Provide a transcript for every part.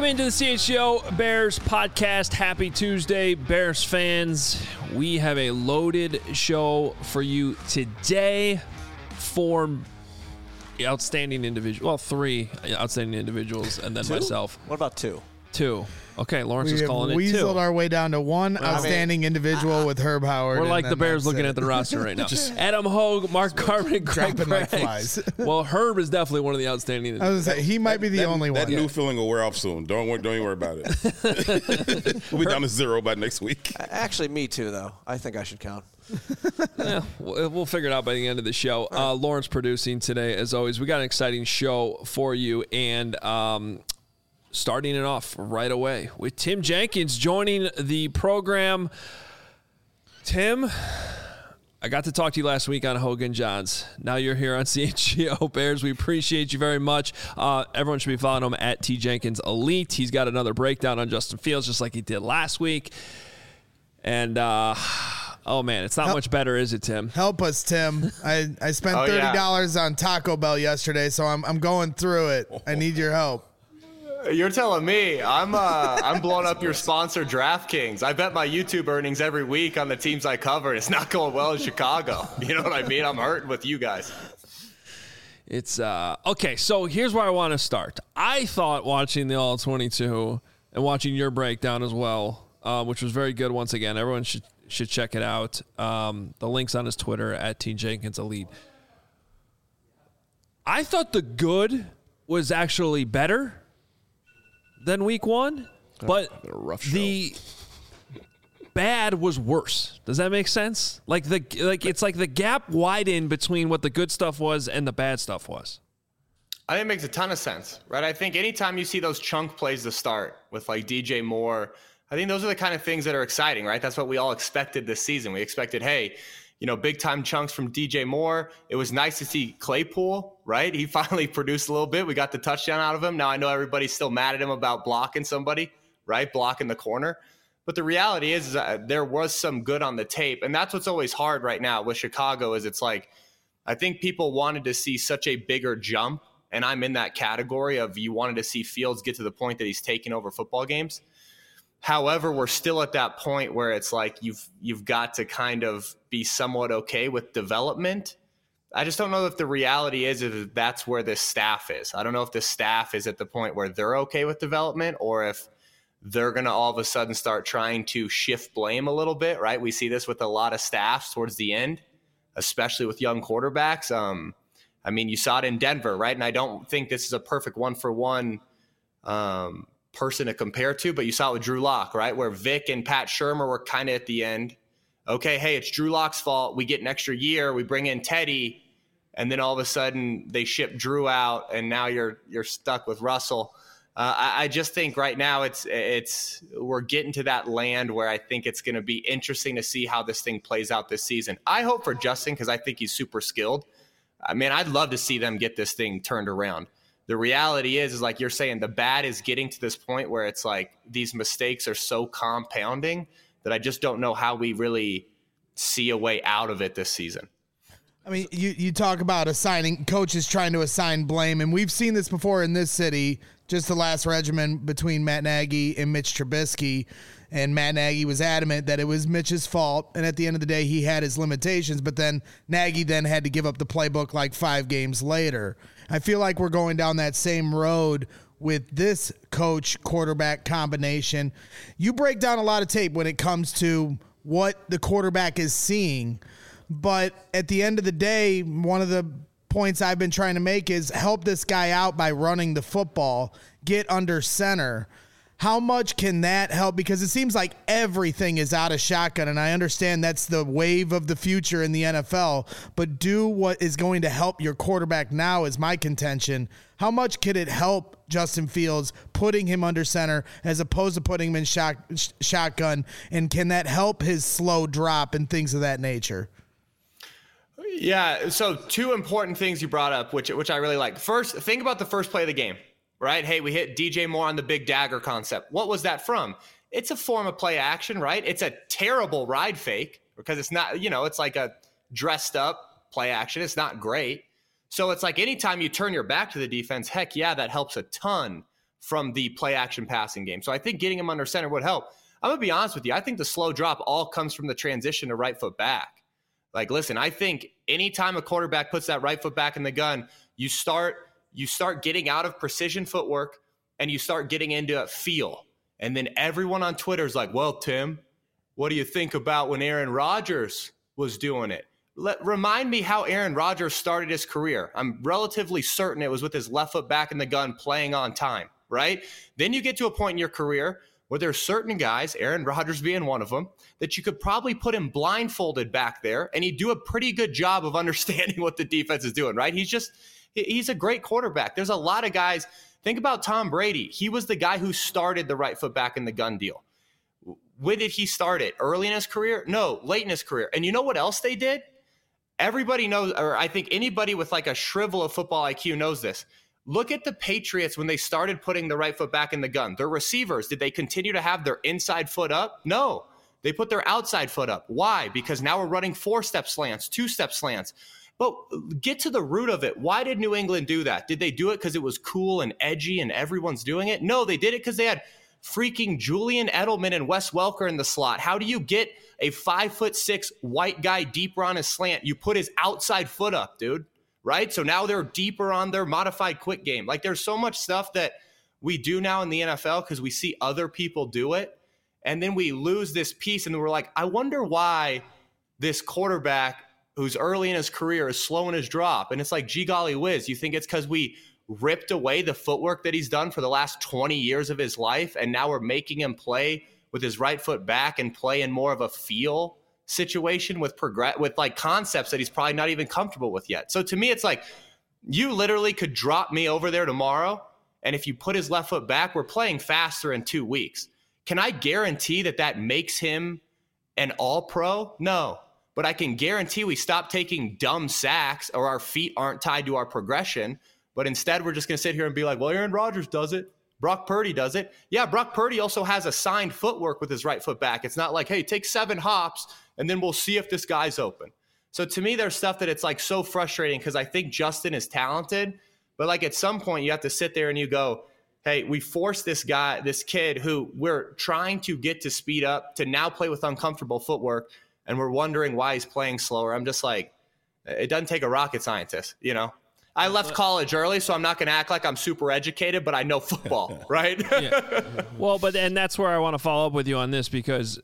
into the CHGO Bears podcast. Happy Tuesday, Bears fans. We have a loaded show for you today. Four outstanding individuals. Well, three outstanding individuals, and then two? Myself. What about two? Two. Okay, Lawrence is calling We it two. weaseled our way down to one outstanding individual with Herb Howard. We're like the Bears looking at the roster right now. Adam Hogue, Mark Carmen, Greg dropping like Braggs. flies. Well, Herb is definitely one of the outstanding I was gonna say, he might be the only That one. new feeling will wear off soon. Don't even worry about it. We'll be down to 0 by next week. Actually, me too, though. I think I should count. Yeah, we'll figure it out by the end of the show. Lawrence producing today, as always. We got an exciting show for you, and starting it off right away with Tim Jenkins joining the program. Tim, I got to talk to you last week on Hogan Johns. Now you're here on CHGO Bears. We appreciate you very much. Everyone should be following him at T Jenkins Elite. He's got another breakdown on Justin Fields, just like he did last week. And oh man, it's not much better, is it, Tim? Help us, Tim. I spent $30 on Taco Bell yesterday, so I'm going through it. I need your help. You're telling me I'm blowing up your sponsor, DraftKings. I bet my YouTube earnings every week on the teams I cover. It's not going well in Chicago. You know what I mean? I'm hurting with you guys. It's okay. So here's where I want to start. I thought watching the All 22 and watching your breakdown as well, which was very good. Once again, everyone should check it out. The link's on his Twitter at T Jenkins Elite. I thought the good was actually better than week one, but the bad was worse. Does that make sense? It's like the gap widened between what the good stuff was and the bad stuff was. I think it makes a ton of sense, right? I think anytime you see those chunk plays to start with like DJ Moore, I think those are the kind of things that are exciting, right? That's what we all expected this season. We expected, hey, big time chunks from DJ Moore. It was nice to see Claypool, right? He finally produced a little bit. We got the touchdown out of him. Now I know everybody's still mad at him about blocking somebody, right? Blocking the corner. But the reality is there was some good on the tape. And that's what's always hard right now with Chicago is it's like, I think people wanted to see such a bigger jump. And I'm in that category of you wanted to see Fields get to the point that he's taking over football games. However, we're still at that point where it's like you've got to kind of be somewhat okay with development. I just don't know if the reality is if that's where this staff is. I don't know if the staff is at the point where they're okay with development or if they're going to all of a sudden start trying to shift blame a little bit, right? We see this with a lot of staffs towards the end, especially with young quarterbacks. I mean, you saw it in Denver, right? And I don't think this is a perfect one-for-one person to compare to, but you saw it with Drew Lock, right? Where Vic and Pat Shurmur were kind of at the end. Okay, hey, it's Drew Lock's fault. We get an extra year. We bring in Teddy, and then all of a sudden they ship Drew out, and now you're stuck with Russell. I just think right now it's we're getting to that land where I think it's going to be interesting to see how this thing plays out this season. I hope for Justin because I think he's super skilled. I mean, I'd love to see them get this thing turned around. The reality is like you're saying, the bad is getting to this point where it's like these mistakes are so compounding that I just don't know how we really see a way out of it this season. I mean, you talk about assigning coaches trying to assign blame, and we've seen this before in this city. Just the last regimen between Matt Nagy and Mitch Trubisky, and Matt Nagy was adamant that it was Mitch's fault, and at the end of the day, he had his limitations, but then Nagy then had to give up the playbook like 5 games later. I feel like we're going down that same road with this coach-quarterback combination. You break down a lot of tape when it comes to what the quarterback is seeing, but at the end of the day, one of the points I've been trying to make is help this guy out by running the football, get under center. How much can that help? Because it seems like everything is out of shotgun, and I understand that's the wave of the future in the NFL, but do what is going to help your quarterback now is my contention. How much could it help Justin Fields putting him under center as opposed to putting him in shotgun, and can that help his slow drop and things of that nature? Yeah, so 2 important things you brought up, which I really like. First, think about the first play of the game. Right? Hey, we hit DJ Moore on the big dagger concept. What was that from? It's a form of play action, right? It's a terrible ride fake because it's not, it's like a dressed up play action. It's not great. So it's like anytime you turn your back to the defense, heck yeah, that helps a ton. from the play action passing game. So I think getting him under center would help. I'm going to be honest with you. I think the slow drop all comes from the transition to right foot back. Like, listen, I think anytime a quarterback puts that right foot back in the gun, you start getting out of precision footwork and you start getting into a feel. And then everyone on Twitter is like, well, Tim, what do you think about when Aaron Rodgers was doing it? Remind me how Aaron Rodgers started his career. I'm relatively certain it was with his left foot back in the gun playing on time, right? Then you get to a point in your career where there's certain guys, Aaron Rodgers being one of them, that you could probably put him blindfolded back there and he'd do a pretty good job of understanding what the defense is doing, right? He's a great quarterback. There's a lot of guys. Think about Tom Brady. He was the guy who started the right foot back in the gun deal. When did he start it? Early in his career? No, late in his career. And you know what else they did? Everybody knows, or I think anybody with like a shrivel of football IQ knows this. Look at the Patriots when they started putting the right foot back in the gun. Their receivers, did they continue to have their inside foot up? No. They put their outside foot up. Why? Because now we're running 4-step slants, 2-step slants. But get to the root of it. Why did New England do that? Did they do it because it was cool and edgy and everyone's doing it? No, they did it because they had freaking Julian Edelman and Wes Welker in the slot. How do you get a 5'6" white guy deeper on his slant? You put his outside foot up, dude. Right? So now they're deeper on their modified quick game. Like, there's so much stuff that we do now in the NFL because we see other people do it. And then we lose this piece and we're like, I wonder why this quarterback who's early in his career is slow in his drop. And it's like, gee golly whiz, you think it's because we ripped away the footwork that he's done for the last 20 years of his life and now we're making him play with his right foot back and play in more of a feel situation with like concepts that he's probably not even comfortable with yet. So to me, it's like you literally could drop me over there tomorrow, and if you put his left foot back, we're playing faster in 2 weeks. Can I guarantee that makes him an all-pro? No. But I can guarantee we stop taking dumb sacks or our feet aren't tied to our progression, but instead we're just going to sit here and be like, well, Aaron Rodgers does it. Brock Purdy does it. Yeah, Brock Purdy also has assigned footwork with his right foot back. It's not like, hey, take 7 hops and then we'll see if this guy's open. So to me, there's stuff that it's like so frustrating because I think Justin is talented, but like at some point you have to sit there and you go, hey, we forced this kid who we're trying to get to speed up to now play with uncomfortable footwork, and we're wondering why he's playing slower. I'm just like, it doesn't take a rocket scientist, you know? I left college early, so I'm not going to act like I'm super educated, but I know football, right? Yeah. Well, and that's where I want to follow up with you on this because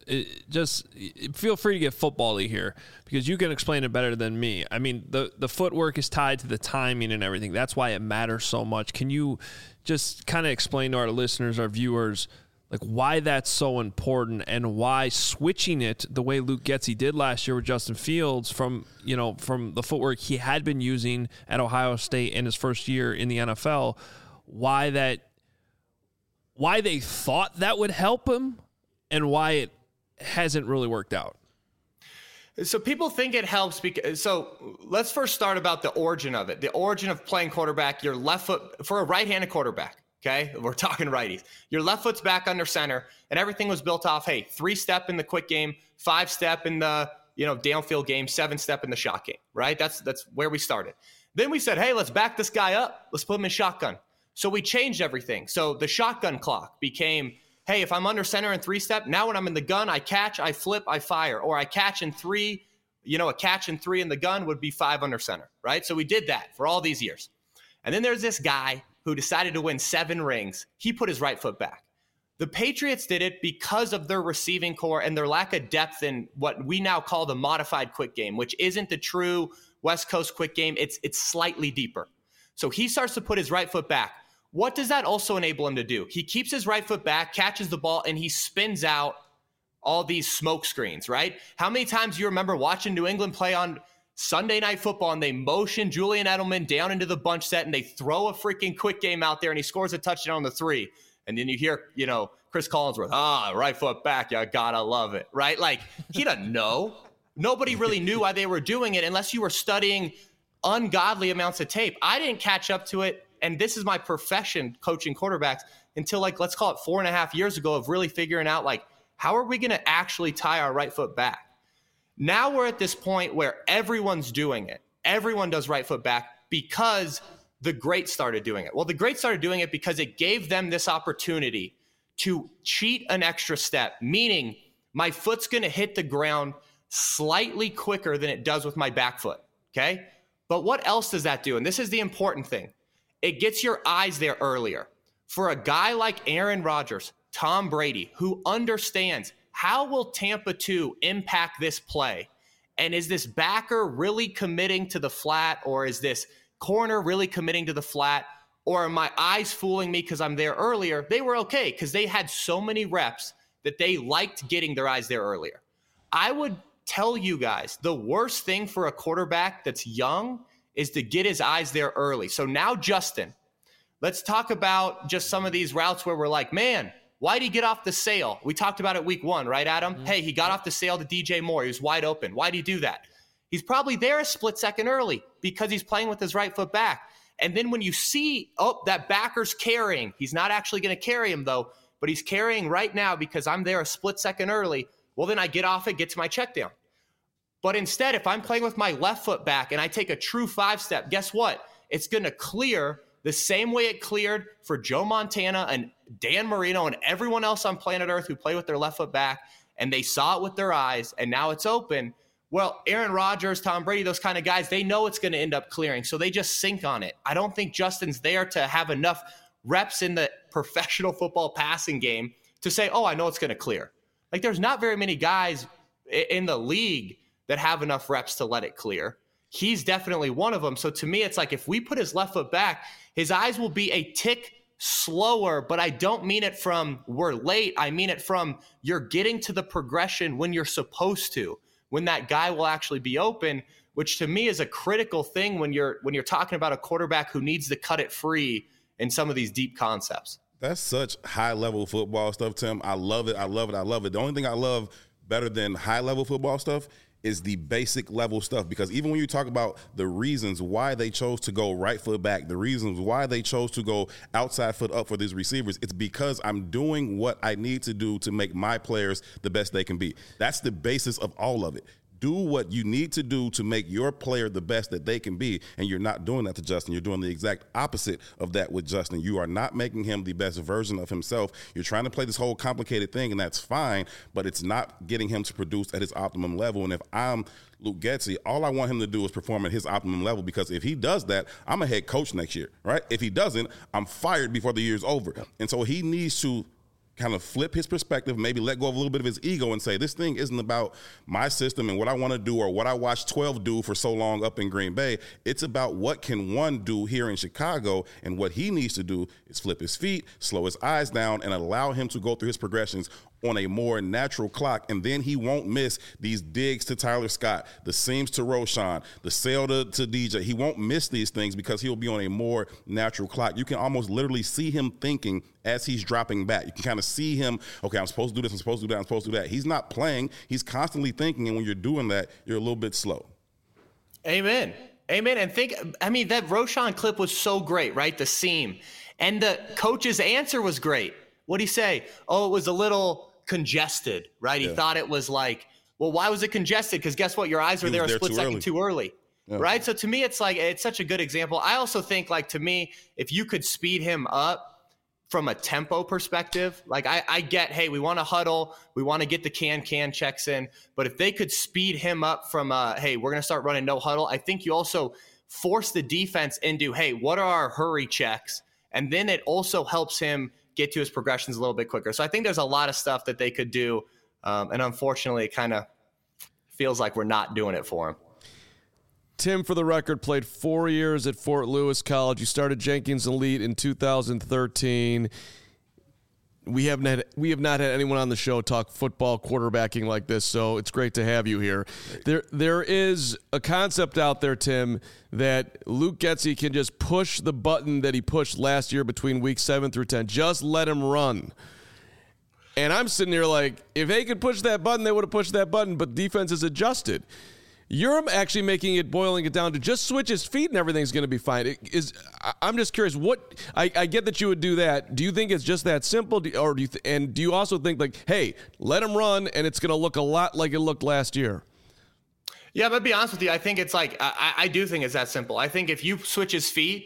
feel free to get football-y here because you can explain it better than me. I mean, the footwork is tied to the timing and everything. That's why it matters so much. Can you just kind of explain to our listeners, our viewers, like why that's so important and why switching it the way Luke Getsy did last year with Justin Fields from the footwork he had been using at Ohio State in his first year in the NFL, why they thought that would help him and why it hasn't really worked out. So people think it helps so let's first start about the origin of it. The origin of playing quarterback, your left foot for a right-handed quarterback. Okay, we're talking righties. Your left foot's back under center, and everything was built off, hey, 3-step in the quick game, 5-step in the downfield game, 7-step in the shot game, right? That's where we started. Then we said, hey, let's back this guy up. Let's put him in shotgun. So we changed everything. So the shotgun clock became, hey, if I'm under center and 3-step, now when I'm in the gun, I catch, I flip, I fire, or I catch in 3. A catch in 3 in the gun would be 5 under center, right? So we did that for all these years. And then there's this guy who decided to win 7 rings. He put his right foot back. The Patriots did it because of their receiving core and their lack of depth in what we now call the modified quick game, which isn't the true West Coast quick game. It's slightly deeper. So he starts to put his right foot back. What does that also enable him to do? He keeps his right foot back, catches the ball, and he spins out all these smoke screens, right? How many times do you remember watching New England play on Sunday Night Football and they motion Julian Edelman down into the bunch set and they throw a freaking quick game out there and he scores a touchdown on the 3. And then you hear, Chris Collinsworth, right foot back. You gotta love it, right? Like, he doesn't know. Nobody really knew why they were doing it unless you were studying ungodly amounts of tape. I didn't catch up to it. And this is my profession, coaching quarterbacks, until let's call it 4.5 years ago of really figuring out how are we going to actually tie our right foot back? Now we're at this point where everyone's doing it. Everyone does right foot back because the greats started doing it? Well, the greats started doing it because it gave them this opportunity to cheat an extra step, meaning my foot's going to hit the ground slightly quicker than it does with my back foot, okay? But what else does that do? And this is the important thing. It gets your eyes there earlier. For a guy like Aaron Rodgers, Tom Brady, who understands how will Tampa 2 impact this play? And is this backer really committing to the flat, or is this corner really committing to the flat? Or are my eyes fooling me because I'm there earlier? They were okay because they had so many reps that they liked getting their eyes there earlier. I would tell you guys, the worst thing for a quarterback that's young is to get his eyes there early. So now, Justin, let's talk about just some of these routes where we're like, man, why'd he get off the sail? We talked about it week 1, right, Adam? Mm-hmm. Hey, he got off the sail to DJ Moore. He was wide open. Why'd he do that? He's probably there a split second early because he's playing with his right foot back. And then when you see, that backer's carrying, he's not actually going to carry him though, but he's carrying right now because I'm there a split second early. Well, then I get off it, get to my check down. But instead, if I'm playing with my left foot back and I take a true 5-step, guess what? It's going to clear the same way it cleared for Joe Montana and Dan Marino and everyone else on planet Earth who play with their left foot back, and they saw it with their eyes, and now it's open. Well, Aaron Rodgers, Tom Brady, those kind of guys, they know it's going to end up clearing, so they just sink on it. I don't think Justin's there to have enough reps in the professional football passing game to say, I know it's going to clear. Like, there's not very many guys in the league that have enough reps to let it clear. He's definitely one of them. So to me, it's like if we put his left foot back, his eyes will be a tick slower, but I don't mean it from we're late. I mean it from you're getting to the progression when you're supposed to, when that guy will actually be open, which to me is a critical thing when you're talking about a quarterback who needs to cut it free in some of these deep concepts. That's such high-level football stuff, Tim. I love it. I love it. I love it. The only thing I love better than high-level football stuff is the basic level stuff, because even when you talk about the reasons why they chose to go right foot back, the reasons why they chose to go outside foot up for these receivers, it's because I'm doing what I need to do to make my players the best they can be. That's the basis of all of it. Do what you need to do to make your player the best that they can be, and you're not doing that to Justin. You're doing the exact opposite of that with Justin. You are not making him the best version of himself. You're trying to play this whole complicated thing, and that's fine, but it's not getting him to produce at his optimum level. And if I'm Luke Getsy, all I want him to do is perform at his optimum level, because if he does that, I'm a head coach next year, right? If he doesn't, I'm fired before the year's over. And so he needs to kind of flip his perspective, maybe let go of a little bit of his ego and say, this thing isn't about my system and what I want to do or what I watched 12 do for so long up in Green Bay. It's about what can one do here in Chicago, and what he needs to do is flip his feet, slow his eyes down, and allow him to go through his progressions on a more natural clock, and then he won't miss these digs to Tyler Scott, the seams to Roschon, the sail to DJ. He won't miss these things because he'll be on a more natural clock. You can almost literally see him thinking as he's dropping back. You can kind of see him, okay, I'm supposed to do this, I'm supposed to do that, I'm supposed to do that. He's not playing. He's constantly thinking, and when you're doing that, you're a little bit slow. Amen. Amen. And that Roschon clip was so great, right? The seam. And the coach's answer was great. What'd he say? Oh, it was a little congested, right? He thought it was like, well, why was it congested? Because guess what? Your eyes were there a split second too early, right? So to me, it's like, it's such a good example. I also think, like, to me, if you could speed him up from a tempo perspective, like I get, hey, we want to huddle, we want to get the can checks in, but if they could speed him up from, hey, we're going to start running no huddle, I think you also force the defense into, hey, what are our hurry checks? And then it also helps him get to his progressions a little bit quicker. So I think there's a lot of stuff that they could do. And unfortunately, it kind of feels like we're not doing it for him. Tim, for the record, played 4 years at Fort Lewis College. You started Jenkins Elite in 2013. We have not had anyone on the show talk football quarterbacking like this, so it's great to have you here. There is a concept out there, Tim, that Luke Getsy can just push the button that he pushed last year between week 7 through 10. Just let him run. And I'm sitting here like, if they could push that button, they would have pushed that button, but defense is adjusted. You're actually boiling it down to just switch his feet and everything's going to be fine. I'm just curious, I get that you would do that. Do you think it's just that simple? Do you also think, like, hey, let him run and it's going to look a lot like it looked last year? Yeah, but to be honest with you, I think it's like, I do think it's that simple. I think if you switch his feet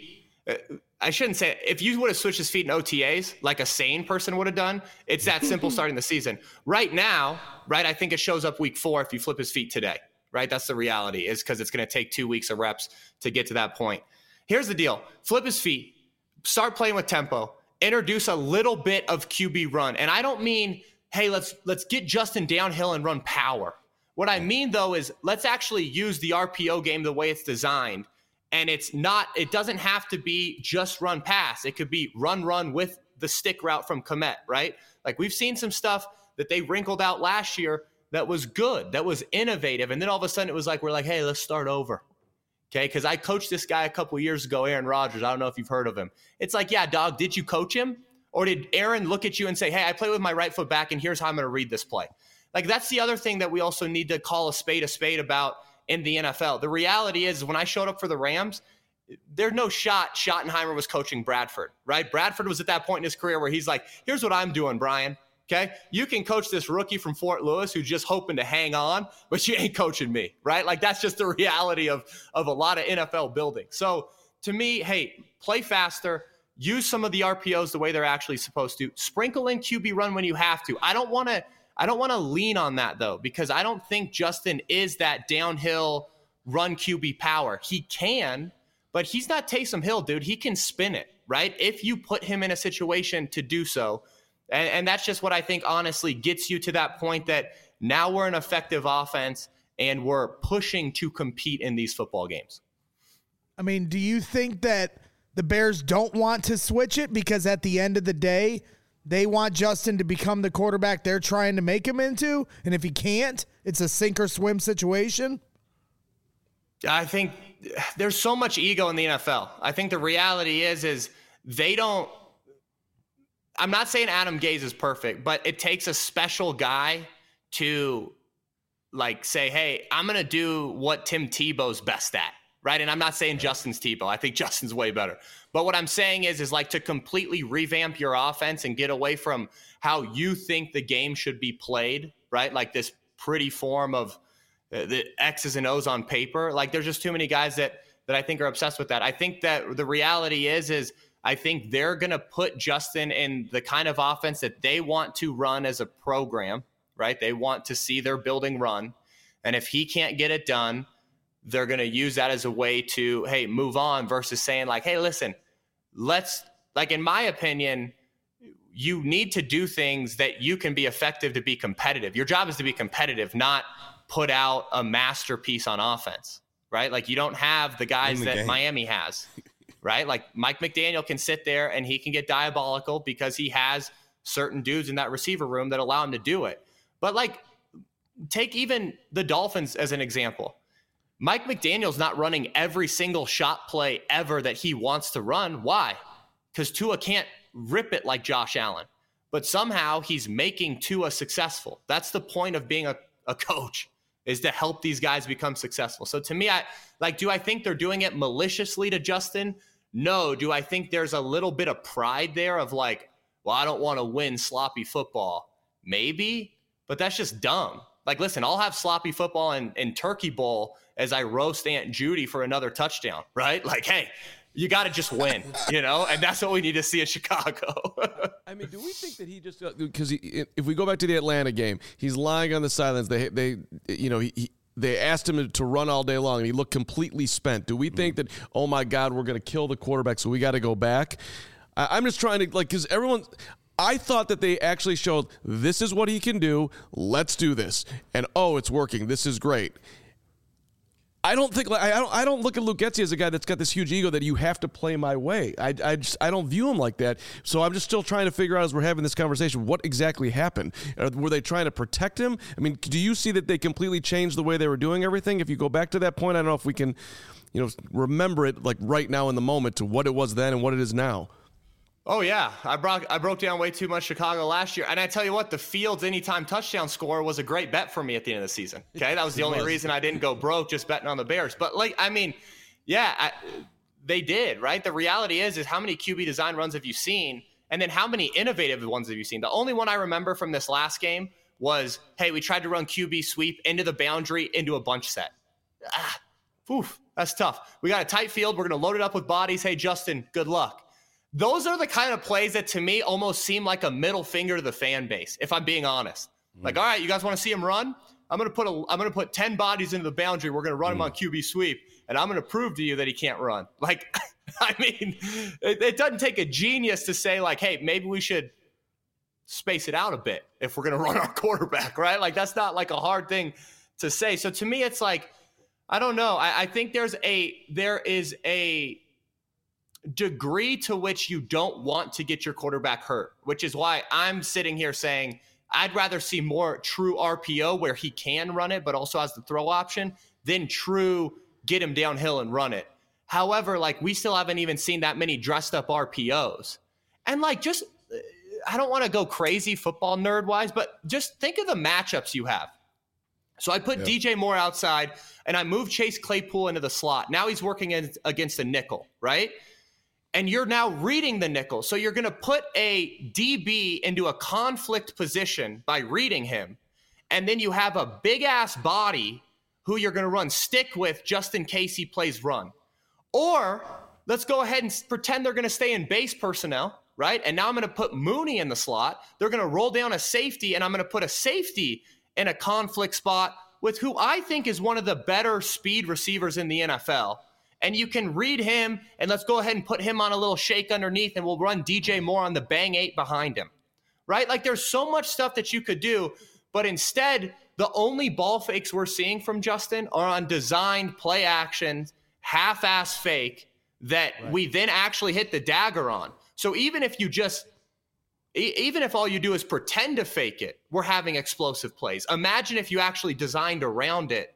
I shouldn't say it. If you would have switched his feet in OTAs like a sane person would have done, it's that simple starting the season. Right now, right, I think it shows up week 4 if you flip his feet today, right? That's the reality, is because it's going to take 2 weeks of reps to get to that point. Here's the deal. Flip his feet, start playing with tempo, introduce a little bit of QB run. And I don't mean, hey, let's get Justin downhill and run power. What I mean, though, is let's actually use the RPO game the way it's designed. And it doesn't have to be just run pass. It could be run with the stick route from Kmet, right? Like, we've seen some stuff that they wrinkled out last year that was good, that was innovative. And then all of a sudden it was like, we're like, hey, let's start over. Okay, because I coached this guy a couple years ago, Aaron Rodgers. I don't know if you've heard of him. It's like, yeah, dog, did you coach him? Or did Aaron look at you and say, hey, I play with my right foot back, and here's how I'm going to read this play? Like, that's the other thing that we also need to call a spade about in the NFL. The reality is, when I showed up for the Rams, there's no shot Schottenheimer was coaching Bradford, right? Bradford was at that point in his career where he's like, here's what I'm doing, Brian. Okay, you can coach this rookie from Fort Lewis who's just hoping to hang on, but you ain't coaching me, right? Like, that's just the reality of a lot of NFL building. So to me, hey, play faster, use some of the RPOs the way they're actually supposed to, sprinkle in QB run when you have to. I don't want to lean on that, though, because I don't think Justin is that downhill run QB power. He can, but he's not Taysom Hill, dude. He can spin it, right? If you put him in a situation to do so. And that's just what I think, honestly, gets you to that point that now we're an effective offense and we're pushing to compete in these football games. I mean, do you think that the Bears don't want to switch it because at the end of the day, they want Justin to become the quarterback they're trying to make him into? And if he can't, it's a sink or swim situation? I think there's so much ego in the NFL. I think the reality is they don't. I'm not saying Adam Gase is perfect, but it takes a special guy to, like, say, hey, I'm going to do what Tim Tebow's best at, right? And I'm not saying Justin's Tebow. I think Justin's way better. But what I'm saying is like to completely revamp your offense and get away from how you think the game should be played, right? Like this pretty form of the X's and O's on paper. Like, there's just too many guys that I think are obsessed with that. I think that the reality is I think they're going to put Justin in the kind of offense that they want to run as a program, right? They want to see their building run. And if he can't get it done, they're going to use that as a way to, hey, move on, versus saying like, hey, listen, like, in my opinion, you need to do things that you can be effective to be competitive. Your job is to be competitive, not put out a masterpiece on offense, right? Like, you don't have the guys that Miami has. Right? Like, Mike McDaniel can sit there and he can get diabolical because he has certain dudes in that receiver room that allow him to do it. But, like, take even the Dolphins as an example. Mike McDaniel's not running every single shot play ever that he wants to run. Why? Because Tua can't rip it like Josh Allen. But somehow he's making Tua successful. That's the point of being a coach, is to help these guys become successful. So to me, do I think they're doing it maliciously to Justin? No. Do I think there's a little bit of pride there of like, well, I don't want to win sloppy football? Maybe, but that's just dumb. Like, listen, I'll have sloppy football in Turkey Bowl as I roast Aunt Judy for another touchdown, right? Like, hey, you got to just win, and that's what we need to see in Chicago. I mean, do we think that he just, because if we go back to the Atlanta game, he's lying on the sidelines. They asked him to run all day long, and he looked completely spent. Do we think that, oh, my God, we're going to kill the quarterback, so we got to go back? I'm just trying to, like, because I thought that they actually showed this is what he can do. Let's do this. And, oh, it's working. This is great. I don't look at Luke Getsy as a guy that's got this huge ego that you have to play my way. I don't view him like that. So I'm just still trying to figure out, as we're having this conversation, what exactly happened. Were they trying to protect him? I mean, do you see that they completely changed the way they were doing everything? If you go back to that point, I don't know if we can, remember it like right now in the moment to what it was then and what it is now. Oh, yeah. I broke down way too much Chicago last year. And I tell you what, the Fields anytime touchdown score was a great bet for me at the end of the season. Okay, that was the only reason I didn't go broke, just betting on the Bears. But, they did, right? The reality is how many QB design runs have you seen? And then how many innovative ones have you seen? The only one I remember from this last game was, hey, we tried to run QB sweep into the boundary, into a bunch set. Oof, that's tough. We got a tight field. We're going to load it up with bodies. Hey, Justin, good luck. Those are the kind of plays that to me almost seem like a middle finger to the fan base, if I'm being honest. Like, all right, you guys want to see him run? I'm going to put 10 bodies into the boundary. We're going to run him on QB sweep, and I'm going to prove to you that he can't run. Like, I mean, it doesn't take a genius to say, like, hey, maybe we should space it out a bit if we're going to run our quarterback, right? Like, that's not like a hard thing to say. So to me, it's like, I don't know. I think there is a degree to which you don't want to get your quarterback hurt, which is why I'm sitting here saying I'd rather see more true RPO where he can run it, but also has the throw option, than true get him downhill and run it. However, like, we still haven't even seen that many dressed up RPOs. And like, just, I don't want to go crazy football nerd wise, but just think of the matchups you have. So I put DJ Moore outside and I moved Chase Claypool into the slot. Now he's working against a nickel, right? And you're now reading the nickel. So you're going to put a DB into a conflict position by reading him. And then you have a big ass body who you're going to run stick with just in case he plays run. Or let's go ahead and pretend they're going to stay in base personnel, right? And now I'm going to put Mooney in the slot. They're going to roll down a safety, and I'm going to put a safety in a conflict spot with who I think is one of the better speed receivers in the NFL. And you can read him, and let's go ahead and put him on a little shake underneath, and we'll run DJ Moore on the bang 8 behind him, right? Like, there's so much stuff that you could do, but instead, the only ball fakes we're seeing from Justin are on designed play action, half-ass fake that we then actually hit the dagger on. So even if all you do is pretend to fake it, we're having explosive plays. Imagine if you actually designed around it,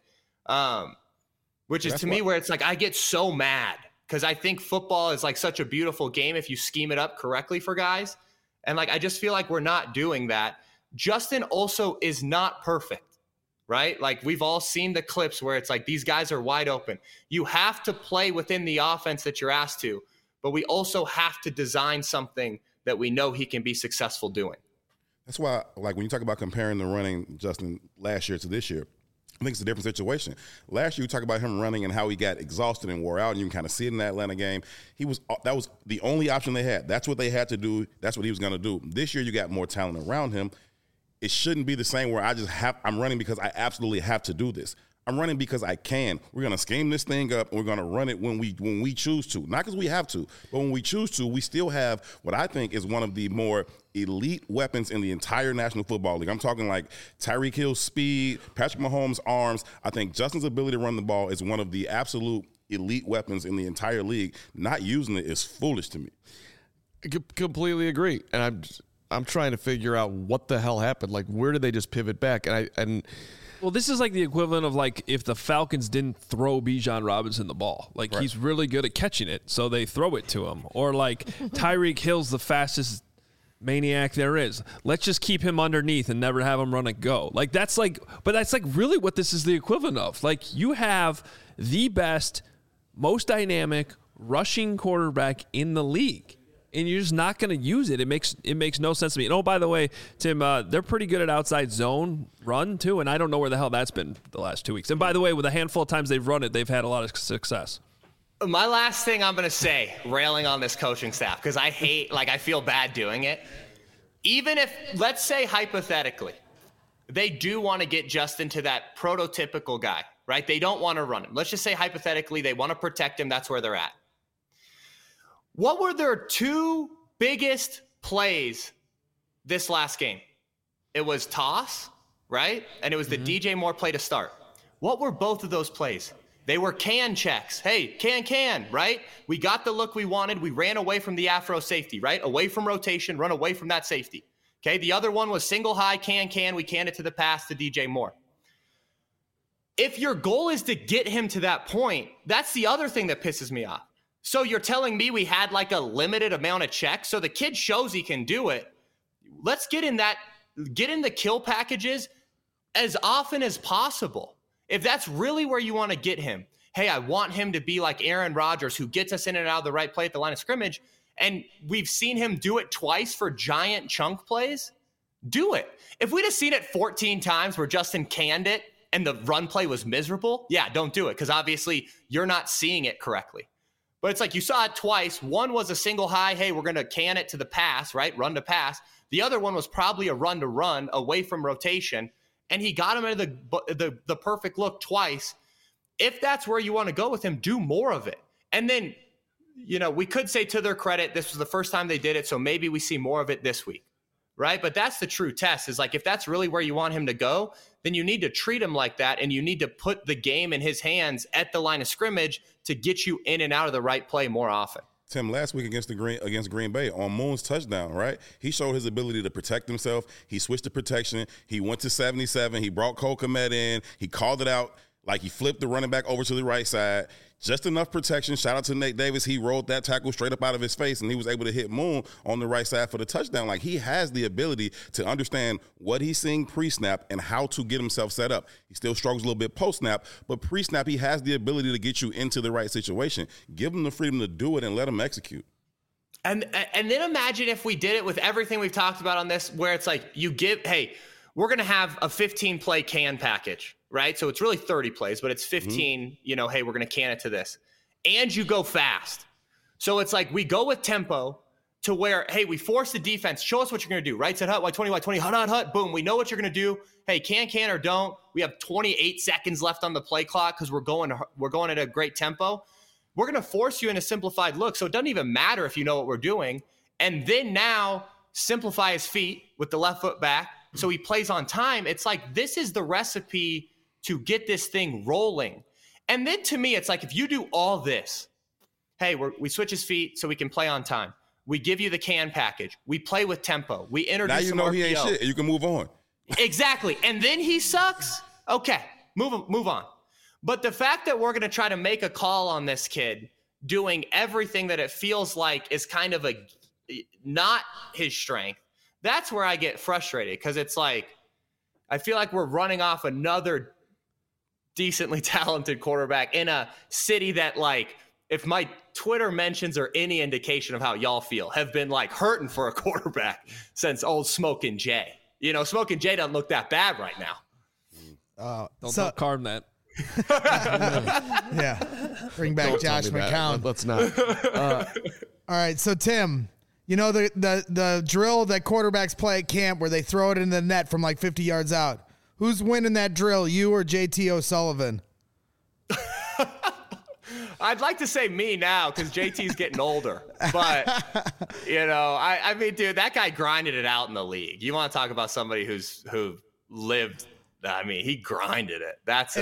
which is to me where it's like, I get so mad because I think football is like such a beautiful game if you scheme it up correctly for guys. And like, I just feel like we're not doing that. Justin also is not perfect, right? Like, we've all seen the clips where it's like, these guys are wide open. You have to play within the offense that you're asked to, but we also have to design something that we know he can be successful doing. That's why, like, when you talk about comparing the running Justin last year to this year, I think it's a different situation. Last year, you talk about him running and how he got exhausted and wore out, and you can kind of see it in that Atlanta game. That was the only option they had. That's what they had to do. That's what he was going to do. This year, you got more talent around him. It shouldn't be the same where I'm running because I absolutely have to do this. I'm running because I can. We're going to scheme this thing up, and we're going to run it when we choose to. Not because we have to, but when we choose to, we still have what I think is one of the more elite weapons in the entire National Football League. I'm talking like Tyreek Hill's speed, Patrick Mahomes' arms. I think Justin's ability to run the ball is one of the absolute elite weapons in the entire league. Not using it is foolish to me. I completely agree. And I'm trying to figure out what the hell happened. Like, where did they just pivot back? Well, this is like the equivalent of like if the Falcons didn't throw Bijan Robinson the ball. Like, he's really good at catching it, so they throw it to him. Or like Tyreek Hill's the fastest maniac there is. Let's just keep him underneath and never have him run and go. Like, that's like really what this is the equivalent of. Like, you have the best, most dynamic rushing quarterback in the league, and you're just not going to use it. It makes no sense to me. And oh, by the way, Tim, they're pretty good at outside zone run too, and I don't know where the hell that's been the last 2 weeks. And by the way, with a handful of times they've run it, they've had a lot of success. My last thing I'm going to say, railing on this coaching staff, because I feel bad doing it. Even if, let's say hypothetically, they do want to get Justin to that prototypical guy, right? They don't want to run him. Let's just say hypothetically they want to protect him. That's where they're at. What were their two biggest plays this last game? It was toss, right? And it was the DJ Moore play to start. What were both of those plays? They were can checks. Hey, can, right? We got the look we wanted. We ran away from the afro safety, right? Away from rotation, run away from that safety. Okay, the other one was single high, can. We canned it to the pass to DJ Moore. If your goal is to get him to that point, that's the other thing that pisses me off. So you're telling me we had like a limited amount of checks, so the kid shows he can do it. Let's get in the kill packages as often as possible. If that's really where you want to get him, hey, I want him to be like Aaron Rodgers, who gets us in and out of the right play at the line of scrimmage, and we've seen him do it twice for giant chunk plays, do it. If we'd have seen it 14 times where Justin canned it and the run play was miserable, yeah, don't do it, because obviously you're not seeing it correctly. But it's like you saw it twice. One was a single high, hey, we're going to can it to the pass, right? Run to pass. The other one was probably a run to run away from rotation, and he got him into the perfect look twice. If that's where you want to go with him, do more of it. And then, we could say to their credit, this was the first time they did it, so maybe we see more of it this week, right? But that's the true test, is like, if that's really where you want him to go, then you need to treat him like that, and you need to put the game in his hands at the line of scrimmage to get you in and out of the right play more often. Tim, last week against Green Bay on Moon's touchdown, right? He showed his ability to protect himself. He switched to protection. He went to 77. He brought Cole Kmet in. He called it out. Like, he flipped the running back over to the right side. Just enough protection. Shout out to Nate Davis. He rolled that tackle straight up out of his face, and he was able to hit Moon on the right side for the touchdown. Like, he has the ability to understand what he's seeing pre-snap and how to get himself set up. He still struggles a little bit post-snap, but pre-snap, he has the ability to get you into the right situation. Give him the freedom to do it and let him execute. And then imagine if we did it with everything we've talked about on this, where it's like we're going to have a 15-play can package, right? So it's really 30 plays, but it's 15, hey, we're going to can it to this. And you go fast. So it's like we go with tempo to where, hey, we force the defense. Show us what you're going to do. Right side hut, Y20, hut. Boom. We know what you're going to do. Hey, can or don't. We have 28 seconds left on the play clock because we're going at a great tempo. We're going to force you in a simplified look. So it doesn't even matter if you know what we're doing. And then now simplify his feet with the left foot back, so he plays on time. It's like, this is the recipe to get this thing rolling. And then to me, it's like, if you do all this, hey, we switch his feet so we can play on time. We give you the can package. We play with tempo. We introduce now you know RPO. He ain't shit, and you can move on. Exactly. And then he sucks. Okay, move on. But the fact that we're going to try to make a call on this kid doing everything that it feels like is kind of not his strength, that's where I get frustrated, because it's like, I feel like we're running off another decently talented quarterback in a city that, like, if my Twitter mentions are any indication of how y'all feel, have been like hurting for a quarterback since old Smokin' Jay. Smokin' Jay doesn't look that bad right now. Don't card that. Yeah. Bring back Josh McCown. Let's not. All right. So, Tim, the drill that quarterbacks play at camp where they throw it in the net from like 50 yards out. Who's winning that drill, you or JT O'Sullivan? I'd like to say me now, because JT's getting older. But, I mean, dude, that guy grinded it out in the league. You want to talk about somebody who lived, I mean, he grinded it. That's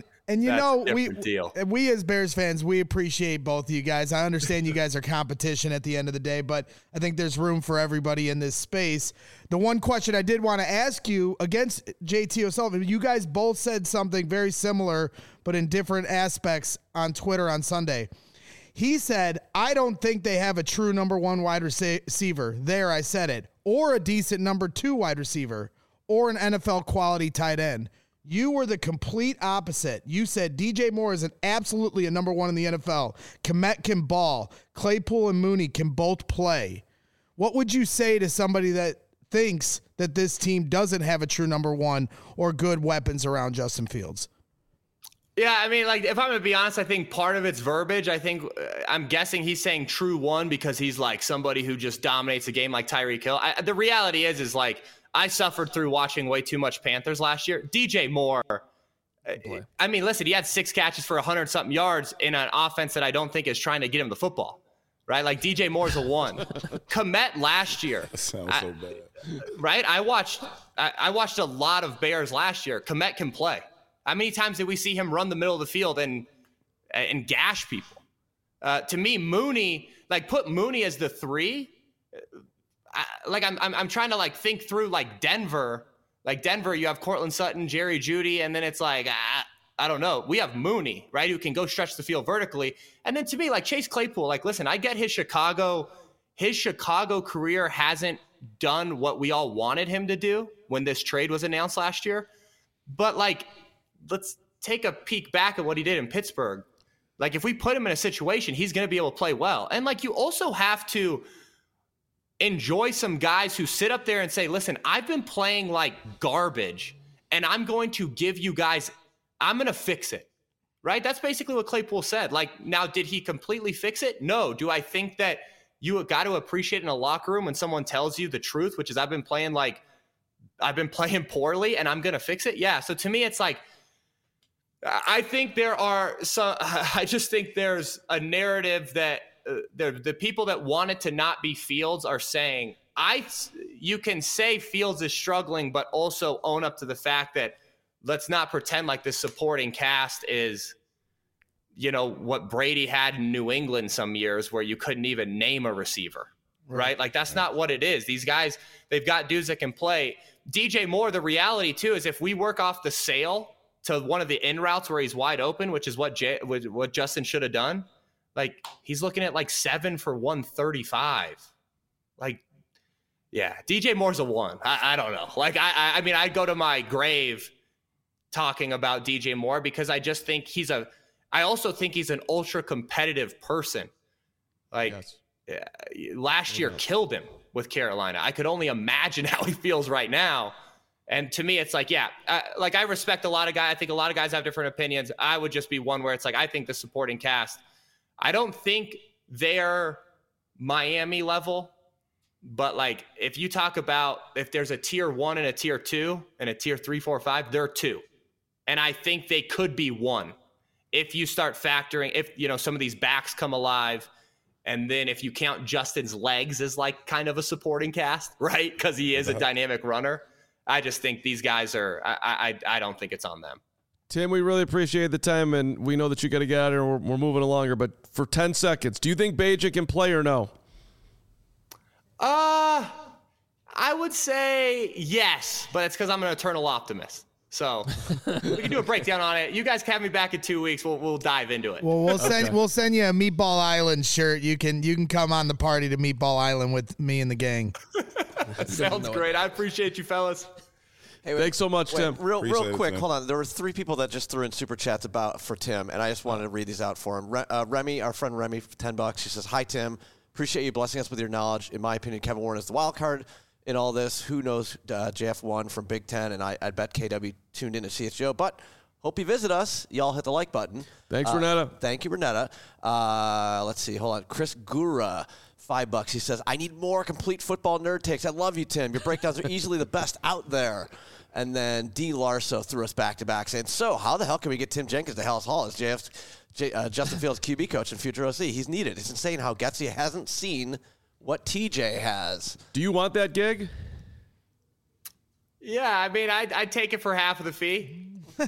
we as Bears fans, we appreciate both of you guys. I understand you guys are competition at the end of the day, but I think there's room for everybody in this space. The one question I did want to ask you against JT O'Sullivan, you guys both said something very similar, but in different aspects on Twitter on Sunday. He said, I don't think they have a true number one wide receiver. There, I said it. Or a decent number two wide receiver. Or an NFL quality tight end. You were the complete opposite. You said DJ Moore is absolutely a number one in the NFL. Kmet can ball. Claypool and Mooney can both play. What would you say to somebody that thinks that this team doesn't have a true number one or good weapons around Justin Fields? Yeah, I mean, like, if I'm going to be honest, I think part of it's verbiage. I'm guessing he's saying true one because he's like somebody who just dominates a game like Tyreek Hill. The reality is like, I suffered through watching way too much Panthers last year. DJ Moore, I mean, listen, he had 6 catches for 100-something yards in an offense that I don't think is trying to get him the football, right? Like, DJ Moore's a 1. Kmet last year. That sounds so bad. Right? I watched a lot of Bears last year. Kmet can play. How many times did we see him run the middle of the field and gash people? To me, Mooney, like, put Mooney as the 3. I'm trying to like think through like Denver. Like Denver, you have Cortland Sutton, Jerry Jeudy, and then it's like I don't know. We have Mooney, right, who can go stretch the field vertically. And then to me, like Chase Claypool, like listen, I get his Chicago career hasn't done what we all wanted him to do when this trade was announced last year. But like, let's take a peek back at what he did in Pittsburgh. Like if we put him in a situation, he's going to be able to play well. And like you also have to enjoy some guys who sit up there and say, listen, I've been playing like garbage and I'm going to give you guys, I'm going to fix it. Right? That's basically what Claypool said. Like, now, did he completely fix it? No. Do I think that you got to appreciate in a locker room when someone tells you the truth, which is I've been playing poorly and I'm going to fix it? Yeah. So to me, it's like, I think I just think there's a narrative that the people that want it to not be Fields are saying, you can say Fields is struggling, but also own up to the fact that let's not pretend like this supporting cast is, what Brady had in New England some years where you couldn't even name a receiver, right? Like, that's not what it is. These guys, they've got dudes that can play. DJ Moore, the reality too is if we work off the sale to one of the in routes where he's wide open, which is what Justin should have done, like, he's looking at like 7 for 135. Like, yeah, DJ Moore's a 1. I don't know. Like, I mean, I'd go to my grave talking about DJ Moore because I just think I also think he's an ultra competitive person. Like, last year killed him with Carolina. I could only imagine how he feels right now. And to me, it's like, I respect a lot of guys. I think a lot of guys have different opinions. I would just be one where it's like, I think the supporting cast, I don't think they're Miami level, but like, if you talk about if there's a tier 1 and a tier 2 and a tier 3, 4, 5, they're 2. And I think they could be 1 if you start factoring, if, some of these backs come alive. And then if you count Justin's legs as like kind of a supporting cast, right? Because he is a dynamic runner. I just think these guys are, I don't think it's on them. Tim, we really appreciate the time, and we know that you got to get out of here. We're moving along here, but for 10 seconds, do you think Bajic can play or no? I would say yes, but it's because I'm an eternal optimist. So we can do a breakdown on it. You guys can have me back in 2 weeks. We'll dive into it. Well, we'll send you a Meatball Island shirt. You can come on the party to Meatball Island with me and the gang. Sounds great. I appreciate you, fellas. Hey, thanks so much, Tim. Real quick, hold on. There were 3 people that just threw in super chats for Tim, and I just wanted to read these out for him. Remy, our friend Remy, for $10. She says, "Hi Tim, appreciate you blessing us with your knowledge. In my opinion, Kevin Warren is the wild card in all this. Who knows JF1 from Big Ten, and I bet KW tuned in to see CHGO, but hope you visit us. Y'all hit the like button. Thanks, Renetta. Thank you, Renetta. Let's see. Hold on. Chris Gura, $5. He says, I need more complete football nerd takes. I love you, Tim. Your breakdowns are easily the best out there. And then D. Larso threw us back-to-back saying, so how the hell can we get Tim Jenkins to Hallis Hall as Justin Fields' QB coach and future OC? He's needed. It's insane how Getsy hasn't seen what TJ has. Do you want that gig? Yeah, I mean, I'd take it for half of the fee.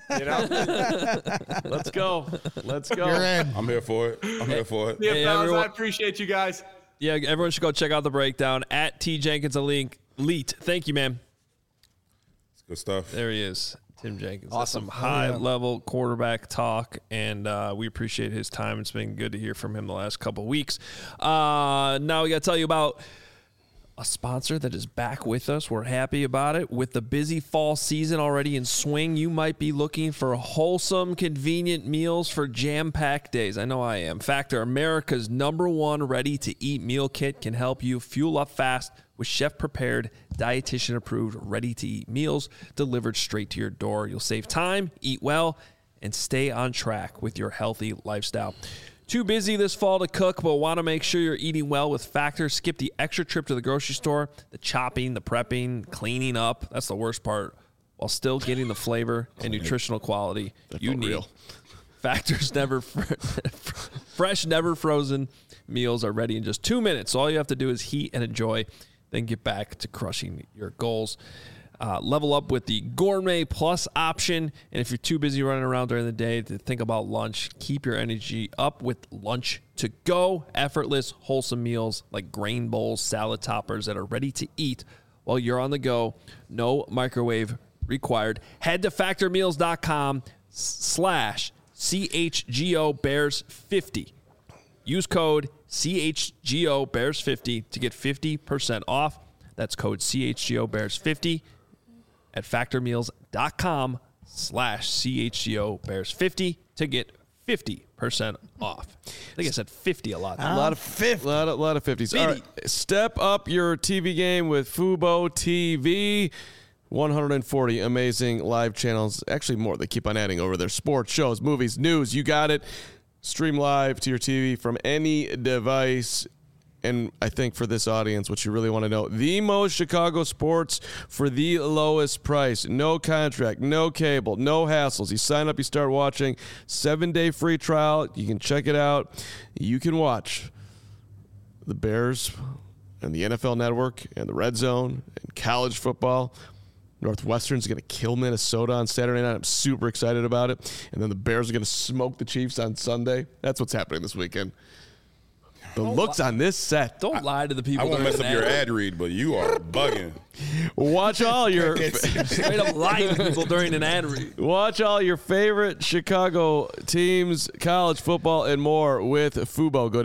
Let's go. You're in. I'm here for it. Yeah, Hey, fellas, everyone. I appreciate you guys. Yeah, everyone should go check out the breakdown at T Jenkins Elite. Thank you, man. It's good stuff. There he is, Tim Jenkins. Awesome. That's some high-level quarterback talk, and we appreciate his time. It's been good to hear from him the last couple of weeks. Now we got to tell you about a sponsor that is back with us. We're happy about it. With the busy fall season already in swing, you might be looking for wholesome, convenient meals for jam-packed days. I know I am. Factor, America's #1 ready-to-eat meal kit, can help you fuel up fast with chef-prepared, dietitian-approved, ready-to-eat meals delivered straight to your door. You'll save time, eat well, and stay on track with your healthy lifestyle. Too busy this fall to cook, but want to make sure you're eating well with Factor? Skip the extra trip to the grocery store, the chopping, the prepping, cleaning up. That's the worst part, while still getting the flavor and nutritional quality you need. Real. Factor's fresh, never frozen meals are ready in just 2 minutes. So all you have to do is heat and enjoy, then get back to crushing your goals. Level up with the Gourmet Plus option. And if you're too busy running around during the day to think about lunch, keep your energy up with Lunch to Go. Effortless, wholesome meals like grain bowls, salad toppers that are ready to eat while you're on the go. No microwave required. Head to factormeals.com/CHGOBears50. Use code CHGOBears50 to get 50% off. That's code CHGOBears50 at factormeals.com/CHGOBears50 to get 50% off. I think I said 50 a lot. A lot of 50s. All right. Step up your TV game with Fubo TV. 140 amazing live channels. Actually, more. They keep on adding over there. Sports, shows, movies, news. You got it. Stream live to your TV from any device. And I think for this audience, what you really want to know, the most Chicago sports for the lowest price. No contract, no cable, no hassles. You sign up, you start watching. 7-day free trial. You can check it out. You can watch the Bears and the NFL Network and the Red Zone and college football. Northwestern's going to kill Minnesota on Saturday night. I'm super excited about it. And then the Bears are going to smoke the Chiefs on Sunday. That's what's happening this weekend. The looks on this set. Don't lie to the people. I won't during mess up an your ad. ad read, but you are bugging. Watch all your Straight up lying to people during an ad read. watch all your favorite Chicago teams, college football, and more with Fubo. Go to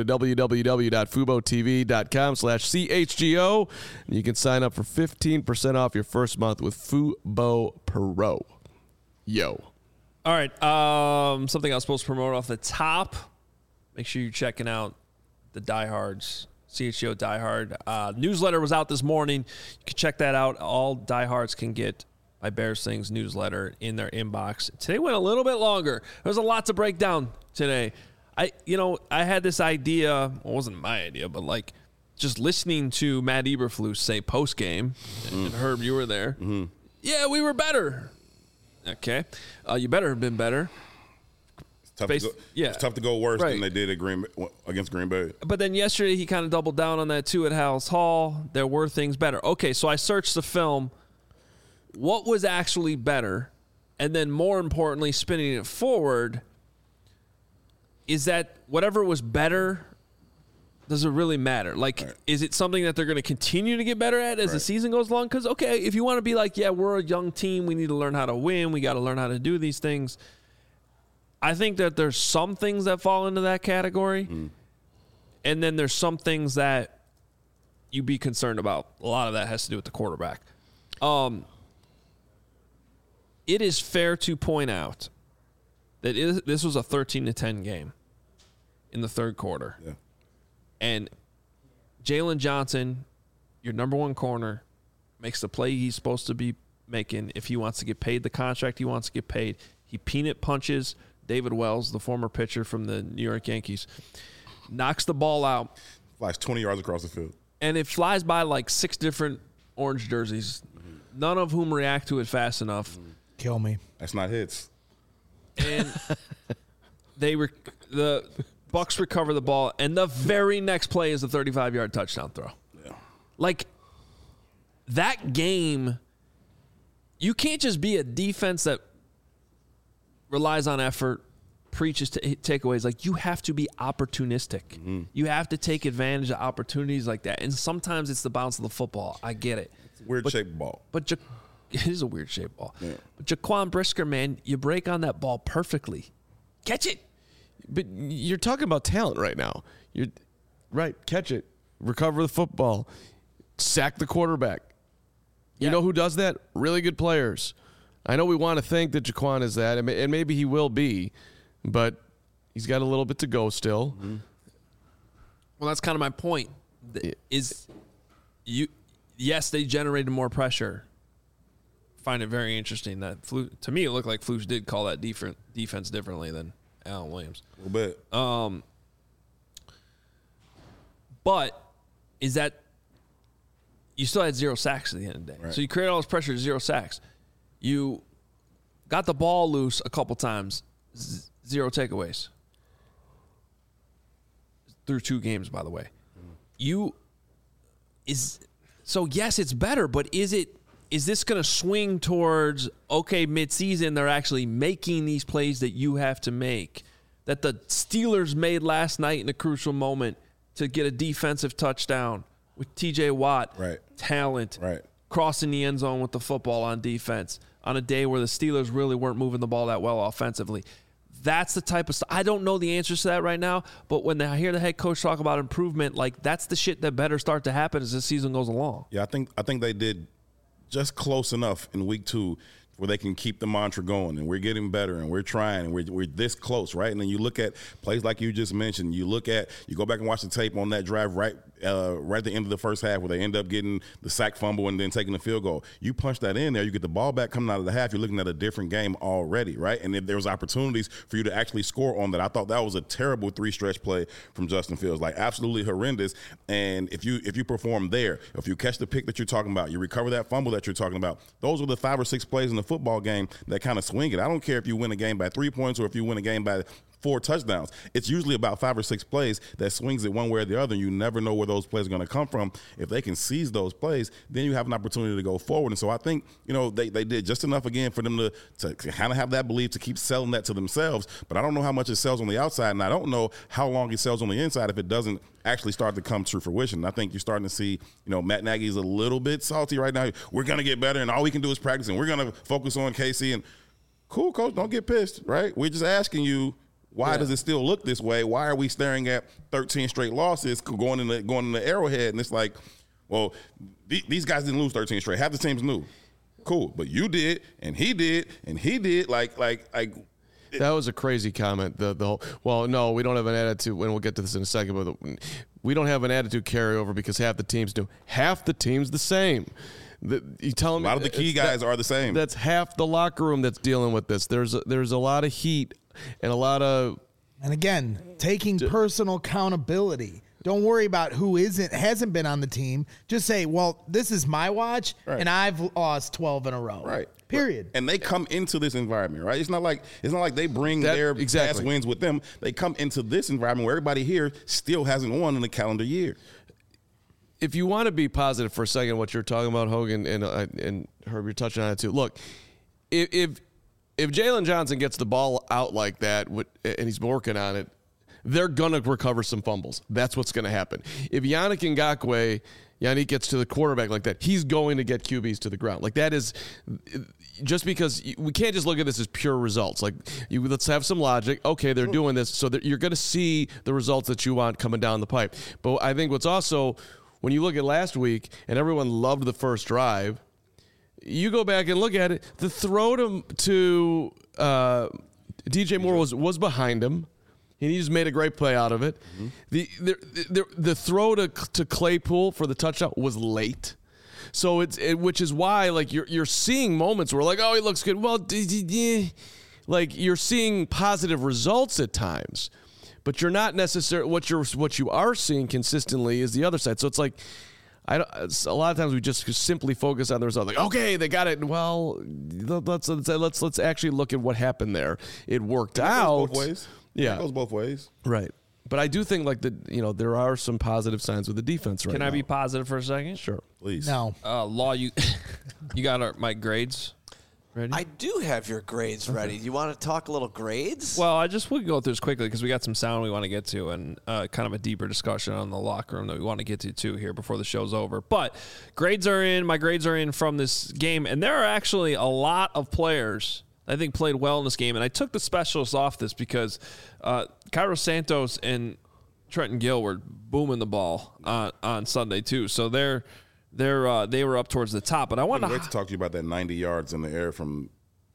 www.fubotv.com/CHGO. And you can sign up for 15% off your first month with Fubo Pro. Yo. All right. Something I was supposed to promote off the top. Make sure you're checking out the Diehards, CHGO Diehard. Newsletter was out this morning. You can check that out. All Diehards can get my Bears Things newsletter in their inbox. Today went a little bit longer. There's a lot to break down today. I had this idea. Well, it wasn't my idea, but like just listening to Matt Eberflus say post game, and Herb, you were there. Mm-hmm. Yeah, we were better. Okay, you better have been better. It's tough to go worse than they did against Green Bay. But then yesterday he kind of doubled down on that too at Halas Hall. There were things better. Okay, so I searched the film. What was actually better? And then more importantly, spinning it forward, is that whatever was better, does it really matter? Like, Is it something that they're going to continue to get better at as the season goes along? Because, okay, if you want to be like, yeah, we're a young team, we need to learn how to win, we got to learn how to do these things. I think that there's some things that fall into that category, and then there's some things that you be concerned about. A lot of that has to do with the quarterback. It is fair to point out that this was a 13-10 game in the third quarter. Yeah. And Jalen Johnson, your number one corner, makes the play he's supposed to be making if he wants to get paid the contract he wants to get paid. He peanut punches David Wells, the former pitcher from the New York Yankees, knocks the ball out. Flies 20 yards across the field. And it flies by like 6 different orange jerseys, none of whom react to it fast enough. Kill me. That's not hits. And the Bucks recover the ball, and the very next play is a 35-yard touchdown throw. Yeah. Like, that game, you can't just be a defense that relies on effort, preaches to takeaways. Like, you have to be opportunistic. Mm-hmm. You have to take advantage of opportunities like that. And sometimes it's the bounce of the football. I get it. It's a weird-shaped ball. But it is a weird-shaped ball. Yeah. But Jaquan Brisker, man, you break on that ball perfectly. Catch it. But you're talking about talent right now. You're right. Catch it. Recover the football. Sack the quarterback. You know who does that? Really good players. I know we want to think that Jaquan is that, and maybe he will be, but he's got a little bit to go still. Mm-hmm. Well, that's kind of my point. Yes, they generated more pressure. Find it very interesting that to me it looked like Flus did call that defense differently than Alan Williams. A little bit. But is that you still had 0 sacks at the end of the day. Right. So you created all this pressure, 0 sacks. You got the ball loose a couple times, 0 takeaways. Through 2 games, by the way. So yes, it's better, but is this going to swing towards, okay, midseason they're actually making these plays that you have to make, that the Steelers made last night in a crucial moment to get a defensive touchdown with TJ Watt, right. Talent, right. Crossing the end zone with the football on defense on a day where the Steelers really weren't moving the ball that well offensively. That's the type of stuff. I don't know the answers to that right now, but when I hear the head coach talk about improvement, like that's the shit that better start to happen as the season goes along. Yeah, I think they did just close enough in week 2 where they can keep the mantra going, and we're getting better, and we're trying, and we're this close, right? And then you look at plays like you just mentioned. You go back and watch the tape on that drive right right at the end of the first half where they end up getting the sack fumble and then taking the field goal. You punch that in there, you get the ball back coming out of the half, you're looking at a different game already, right? And if there was opportunities for you to actually score on that. I thought that was a terrible 3-stretch play from Justin Fields, like absolutely horrendous. And if you perform there, if you catch the pick that you're talking about, you recover that fumble that you're talking about, those are the 5 or 6 plays in the football game that kind of swing it. I don't care if you win a game by 3 points or if you win a game by 4 touchdowns. It's usually about 5 or 6 plays that swings it one way or the other. You never know where those plays are going to come from. If they can seize those plays, then you have an opportunity to go forward. And so I think, they did just enough again for them to kind of have that belief to keep selling that to themselves. But I don't know how much it sells on the outside, and I don't know how long it sells on the inside if it doesn't actually start to come to fruition. I think you're starting to see, Matt Nagy's a little bit salty right now. We're going to get better, and all we can do is practice, and we're going to focus on KC. And cool, coach, don't get pissed, right? We're just asking you, why does it still look this way? Why are we staring at 13 straight losses going in the Arrowhead? And it's like, well, these guys didn't lose 13 straight. Half the team's new. Cool, but you did, and he did, and he did. Like. That was a crazy comment. The whole, well, no, we don't have an attitude, and we'll get to this in a second, but we don't have an attitude carryover because half the teams do. Half the team's the same. You tell me a lot of the key guys are the same. That's half the locker room that's dealing with this. There's a lot of heat and a lot of. And again, taking personal accountability. Don't worry about who hasn't been on the team. Just say, well, this is my watch, and I've lost 12 in a row. Right. Period. And they come into this environment, right? It's not like they bring their past wins with them. They come into this environment where everybody here still hasn't won in a calendar year. If you want to be positive for a second, what you're talking about, Hogan, and Herb, you're touching on it too. Look, if Jalen Johnson gets the ball out like that, and he's working on it, they're going to recover some fumbles. That's what's going to happen. If Yannick gets to the quarterback like that, he's going to get QBs to the ground. Like that is just because we can't just look at this as pure results. Like let's have some logic. Okay, they're doing this, so that you're going to see the results that you want coming down the pipe. But I think what's also, when you look at last week and everyone loved the first drive, you go back and look at it, the throw to DJ Moore was behind him. And he just made a great play out of it. Mm-hmm. The throw to Claypool for the touchdown was late. So which is why like you're seeing moments where like, oh, he looks good. Well, like you're seeing positive results at times, but you're not necessarily what you are seeing consistently is the other side. So it's like a lot of times we just simply focus on the result. Like, okay, they got it. Well, let's actually look at what happened there. It worked out. Both ways. Yeah, it goes both ways. Right. But I do think like there are some positive signs with the defense right now. Can I be positive for a second? Sure. Please. No. Law, you got my grades ready? I do have your grades ready. You want to talk a little grades? Well, we can go through this quickly because we got some sound we want to get to and kind of a deeper discussion on the locker room that we want to get to too here before the show's over. But grades are in. My grades are in from this game, and there are actually a lot of players I think played well in this game. And I took the specialists off this because Cairo Santos and Trenton Gill were booming the ball on Sunday too. So they were up towards the top. But I wanted to talk to you about that 90 yards in the air from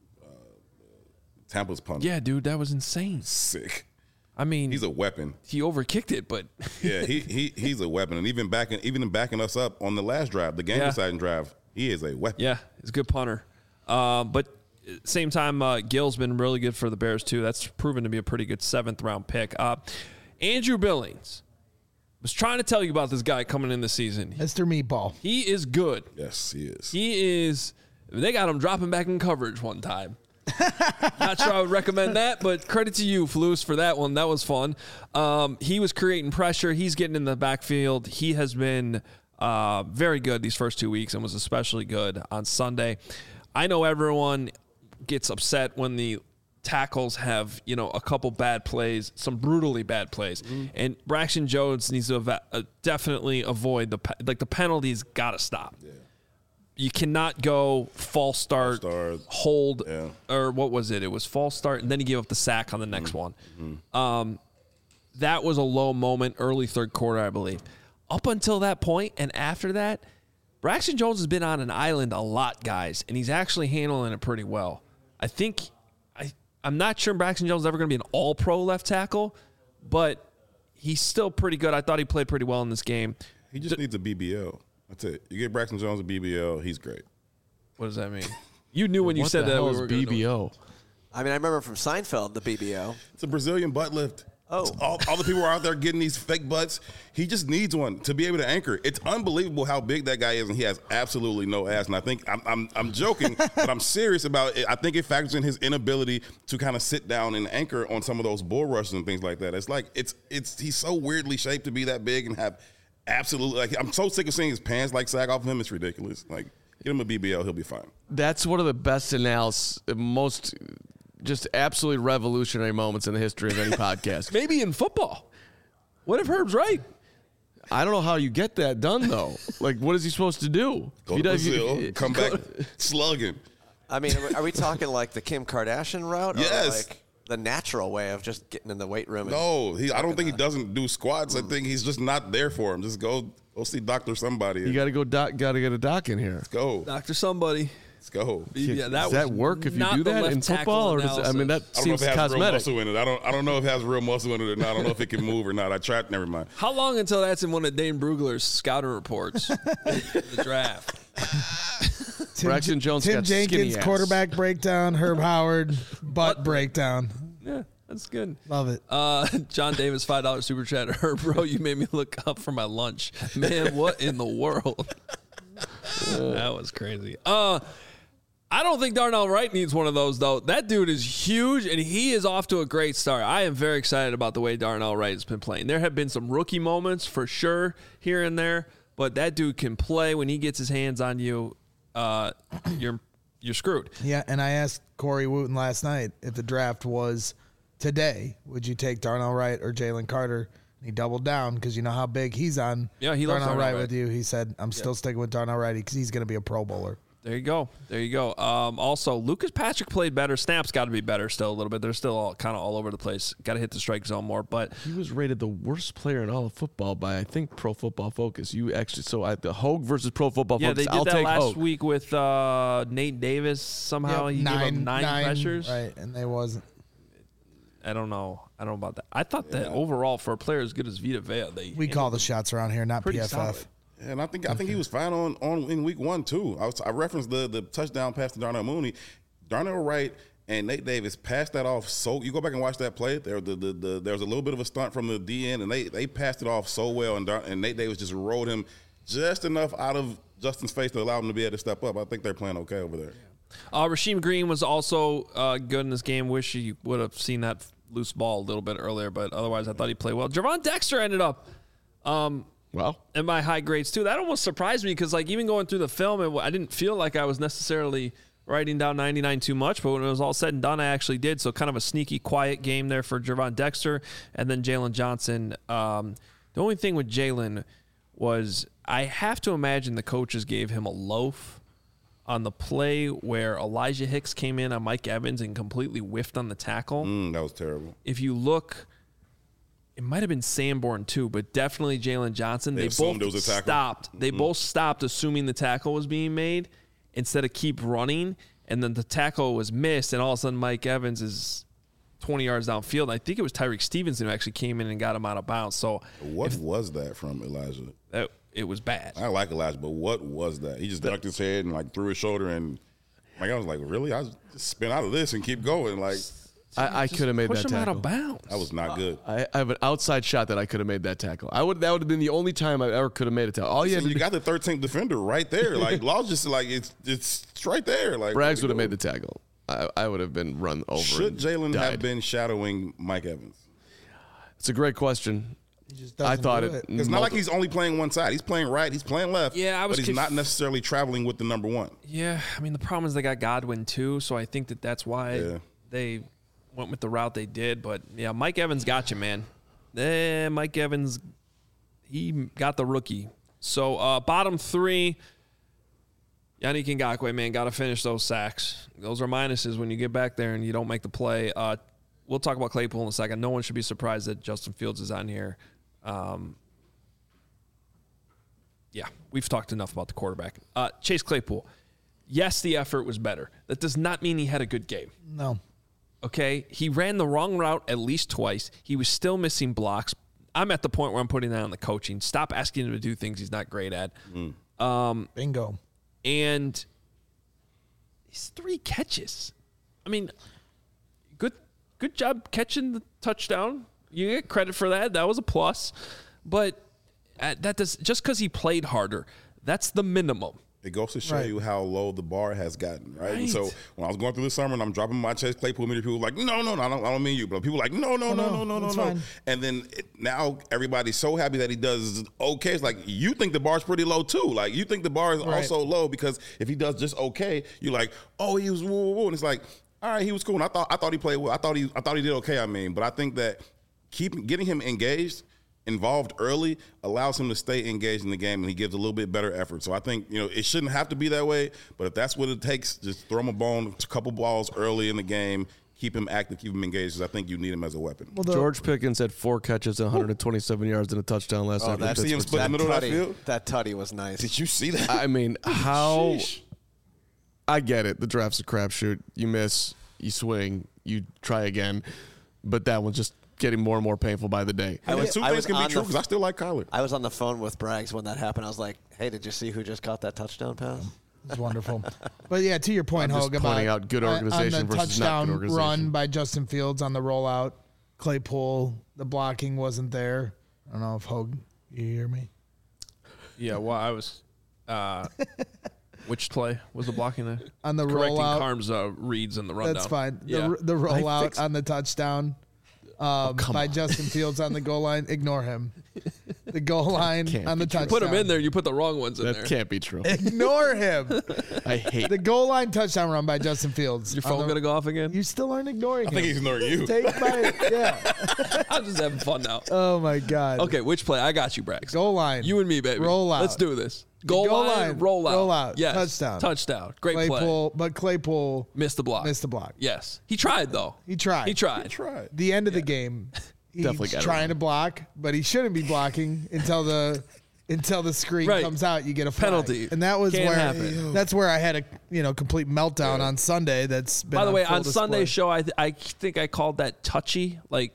Tampa's punt. Yeah, dude, that was insane. Sick. I mean, he's a weapon. He overkicked it, but yeah, he's a weapon. And even backing us up on the last drive, the game-deciding drive, he is a weapon. Yeah, he's a good punter. But same time, Gill's been really good for the Bears, too. That's proven to be a pretty good 7th-round pick. Andrew Billings was trying to tell you about this guy coming in the season. Mr. Meatball. He is good. Yes, he is. He is. They got him dropping back in coverage one time. Not sure I would recommend that, but credit to you, Flus, for that one. That was fun. He was creating pressure. He's getting in the backfield. He has been very good these first 2 weeks and was especially good on Sunday. I know everyone gets upset when the tackles have, a couple bad plays, some brutally bad plays. Mm-hmm. And Braxton Jones needs to definitely avoid the penalties got to stop. Yeah. You cannot go false start, hold, or what was it? It was false start, and then he gave up the sack on the next one. Mm-hmm. That was a low moment, early third quarter, I believe. Up until that point, and after that, Braxton Jones has been on an island a lot, guys, and he's actually handling it pretty well. I think I'm not sure Braxton Jones is ever going to be an all-pro left tackle, but he's still pretty good. I thought he played pretty well in this game. He just needs a BBL. That's it. You get Braxton Jones a BBL, he's great. What does that mean? You knew when you said that we were BBO. I mean, I remember from Seinfeld, the BBO. It's a Brazilian butt lift. Oh. All the people are out there getting these fake butts. He just needs one to be able to anchor. It's unbelievable how big that guy is, and he has absolutely no ass. And I think I'm joking, but I'm serious about it. I think it factors in his inability to kind of sit down and anchor on some of those bull rushes and things like that. It's like he's so weirdly shaped to be that big and have absolutely like. I'm so sick of seeing his pants like sag off of him. It's ridiculous. Like, get him a BBL, he'll be fine. That's one of the best analysis, most just absolutely revolutionary moments in the history of any podcast. Maybe in football. What if Herb's right? I don't know how you get that done, though. Like, what is he supposed to do? Go to Brazil, come back slugging. I mean, are we talking like the Kim Kardashian route? Yes. Or like the natural way of just getting in the weight room? No, I don't think he doesn't do squats. I think he's just not there for him. Just go see Dr. Somebody. You got to go. Got to get a doc in here. Let's go. Dr. Somebody. Let's go. Yeah, does that work if you do that in football, or does I mean that I don't know seems if it has real cosmetic? muscle in it. I don't know if it has real muscle in it or not. I don't know if it can move or not. I tried. Never mind. How long until that's in one of Dane Brugler's scouting reports? The draft. Braxton Jones Tim got skinny Jenkins, ass. quarterback breakdown. Herb Howard, butt breakdown. Yeah, that's good. Love it. John Davis, $5 super chat. Herb, bro, you made me look up for my lunch. Man, what in the world? That was crazy. I don't think Darnell Wright needs one of those, though. That dude is huge, and he is off to a great start. I am very excited about the way Darnell Wright has been playing. There have been some rookie moments, for sure, here and there, but that dude can play. When he gets his hands on you, you're screwed. Yeah, and I asked Corey Wooten last night if the draft was today, would you take Darnell Wright or Jalen Carter? And he doubled down because you know how big he's on. Yeah, he loves Darnell Darnell Wright Wright with you. He said, I'm still sticking with Darnell Wright because he's going to be a Pro Bowler. There you go. There you go. Also, Lucas Patrick played better. Snaps got to be better still a little bit. They're still kind of all over the place. Got to hit the strike zone more. But he was rated the worst player in all of football by, I think, Pro Football Focus. You actually, the Hogue versus Pro Football Focus. They did I'll that take last Hogue. week with Nate Davis. Somehow he gave him nine pressures. Right, and they wasn't. I don't know about that. I thought that overall for a player as good as Vita Vea, we call the shots around here, not pretty PFF. solid. And I think he was fine on in week 1 too. I referenced the touchdown pass to Darnell Mooney. Darnell Wright and Nate Davis passed that off. So you go back and watch that play. There was a little bit of a stunt from the DN, and they passed it off so well. And Nate Davis just rolled him just enough out of Justin's face to allow him to be able to step up. I think they're playing okay over there. Rasheem Green was also good in this game. Wish he would have seen that loose ball a little bit earlier, but otherwise I thought he played well. Javon Dexter ended up in my high grades too. That almost surprised me because, like, even going through the film, I didn't feel like I was necessarily writing down 99 too much, but when it was all said and done, I actually did. So kind of a sneaky, quiet game there for Javon Dexter. And then Jalen Johnson. The only thing with Jalen was I have to imagine the coaches gave him a loaf on the play where Elijah Hicks came in on Mike Evans and completely whiffed on the tackle. That was terrible. If you look, it might have been Sanborn too, but definitely Jalen Johnson. They both there was a tackle. stopped. They both stopped assuming the tackle was being made instead of keep running, and then the tackle was missed, and all of a sudden Mike Evans is 20 yards downfield. I think it was Tyreek Stevenson who actually came in and got him out of bounds. So what was that from Elijah? It was bad. I like Elijah, but what was that? He just ducked his head and like threw his shoulder, and like I was like, really? I just spin out of this and keep going. Like I could have made that Push him tackle. out of bounds. that was not good. I have an outside shot that I could have made that tackle. That would have been the only time I ever could have made a tackle. All you had to You do, got the 13th defender right there. Like Law's just like it's right there. Like Braggs would have made the tackle. I would have been run over. Should and Jalen died. have been shadowing Mike Evans? It's a great question. He just I doesn't thought do it. It's not like he's only playing one side. He's playing right. He's playing left. Yeah, but he's not necessarily traveling with the number one. Yeah, I mean, the problem is they got Godwin too, so I think that's why they went with the route they did. But, yeah, Mike Evans got you, man. Mike Evans, he got the rookie. So, bottom three, Yannick Ngakoue, man, got to finish those sacks. Those are minuses when you get back there and you don't make the play. We'll talk about Claypool in a second. No one should be surprised that Justin Fields is on here. Yeah, we've talked enough about the quarterback. Chase Claypool, yes, the effort was better. That does not mean he had a good game. No. Okay? He ran the wrong route at least twice. He was still missing blocks. I'm at the point where I'm putting that on the coaching. Stop asking him to do things he's not great at. Bingo. And he's 3 catches. I mean, good job catching the touchdown. You get credit for that. That was a plus. But that does just because he played harder, that's the minimum. It goes to show Right. you how low the bar has gotten, right? Right. So when I was going through the summer and I'm dropping my Chase Claypool meter, people were like, no, I don't mean you, but people were like, no. that's fine. And then now everybody's so happy that he does okay. It's like, you think the bar's pretty low too. Like, you think the bar is Right. also low because if he does just okay, you're like, oh, he was woo. And it's like, all right, he was cool. And I thought he played well. I thought he did okay. I mean, but I think that getting him involved early allows him to stay engaged in the game, and he gives a little bit better effort. So I think, it shouldn't have to be that way, but if that's what it takes, just throw him a bone, a couple balls early in the game, keep him active, keep him engaged, because I think you need him as a weapon. Well, George Pickens had 4 catches and 127 yards and a touchdown last night. that's- see him split in the middle of that field? That tutty was nice. Did you see that? I mean, how? Sheesh. I get it. The draft's a crapshoot. You miss, you swing, you try again, but that one's just getting more and more painful by the day. I was- Two I things was can be on true the- because I still like Kyler. I was on the phone with Braggs when that happened. I was like, hey, did you see who just caught that touchdown pass? It's wonderful. But yeah, to your point, I'm just Hogue, about pointing out good organization on the versus not touchdown good organization. run by Justin Fields on the rollout. Claypool, the blocking wasn't there. I don't know if Hogue, you hear me? Yeah, well, I was. Which play was the blocking there? On the Correcting rollout. Carm's reads in the rundown. That's fine. Yeah. The rollout on the touchdown by Justin Fields on the goal line. Ignore him. The goal line Can't on the be true. touchdown. Put him in there. You put the wrong ones in That there. can't be true. Ignore him. I hate The goal line touchdown run by Justin Fields. Your On phone the- gonna go off again? You still aren't ignoring I him. think he's ignoring you. Take my yeah. I'm just having fun now. Oh my God. Okay, which play? I got you, Brax. Goal line. You and me, baby. Roll out. Let's do this. Goal line, roll out. roll out, Yes. touchdown. Touchdown. Great play. Claypool, but Claypool Missed the block. missed the block. Yes. He tried, though. He tried. He tried. Try it. The end of the game, he's Definitely got it trying wrong. to block, but he shouldn't be blocking until the screen Right. comes out. You get a flag. Penalty. and that was Can't where happen. that's where I had a complete meltdown on Sunday. That's been By the way, full on display. Sunday's show, I think I called that touchy, like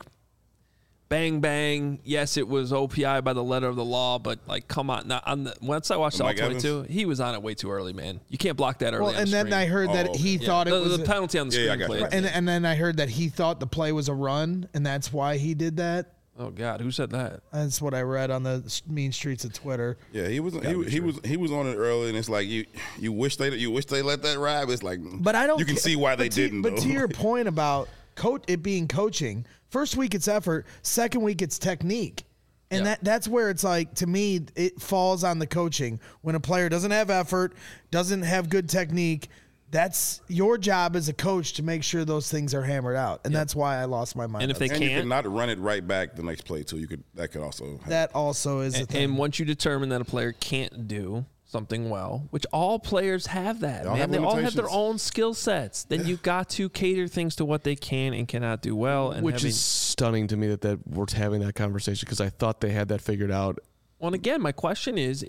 bang bang. Yes, it was OPI by the letter of the law, but like, come on. Now, once I watched all Mike 22, he was on it way too early, man. You can't block that early. Well, on and the then screen. I heard that Oh, okay. he Yeah. thought it was the penalty on the Yeah, I screen. got play. you. and then I heard that he thought the play was a run, and that's why he did that. Oh God, who said that? That's what I read on the mean streets of Twitter. Yeah, he was on it early, and it's like you wish they let that ride. But it's like, But I don't. You can ca- see why they but to- didn't. But though. to your point about it being coaching, first week it's effort, second week it's technique, and Yeah. that's where it's like, to me, it falls on the coaching. When a player doesn't have effort, doesn't have good technique, that's your job as a coach to make sure those things are hammered out, and that's why I lost my mind. And if on they that. and you can't, could not run it right back the next play too. That could also happen. that also is a thing. and once you determine that a player can't do something well, which all players have that, They all man. have They all have their limitations. own skill sets. Then you got to cater things to what they can and cannot do well. And Which having, is stunning to me that we're having that conversation because I thought they had that figured out. well, and again, my question is,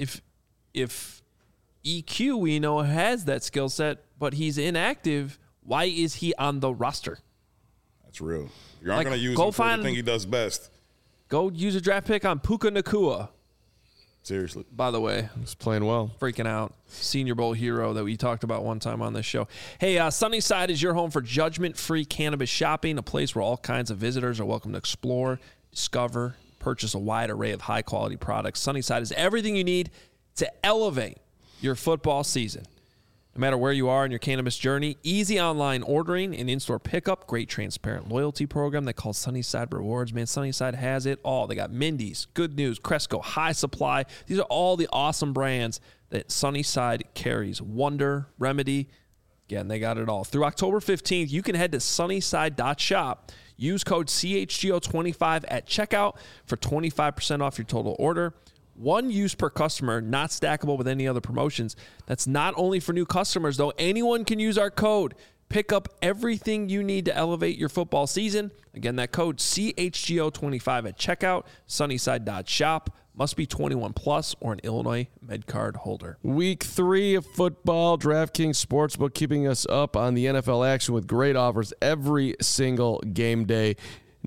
if EQ we know has that skill set, but he's inactive, why is he on the roster? That's real. You aren't Like, going to use go him for find- the thing he does best. Go use a draft pick on Puka Nakua. Seriously. By the way, He's playing well. freaking out. Senior Bowl hero that we talked about one time on this show. Hey, Sunnyside is your home for judgment-free cannabis shopping, a place where all kinds of visitors are welcome to explore, discover, purchase a wide array of high-quality products. Sunnyside is everything you need to elevate your football season. No matter where you are in your cannabis journey, easy online ordering and in-store pickup, great transparent loyalty program they call Sunnyside Rewards. Man, Sunnyside has it all. They got Mindy's, Good News, Cresco, High Supply. These are all the awesome brands that Sunnyside carries. Wonder, Remedy. Again, they got it all. Through October 15th, you can head to sunnyside.shop. Use code CHGO25 at checkout for 25% off your total order. One use per customer, not stackable with any other promotions. That's not only for new customers, though. Anyone can use our code. Pick up everything you need to elevate your football season. Again, that code CHGO25 at checkout, sunnyside.shop. Must be 21 plus or an Illinois MedCard holder. Week 3 of football, DraftKings Sportsbook keeping us up on the NFL action with great offers every single game day.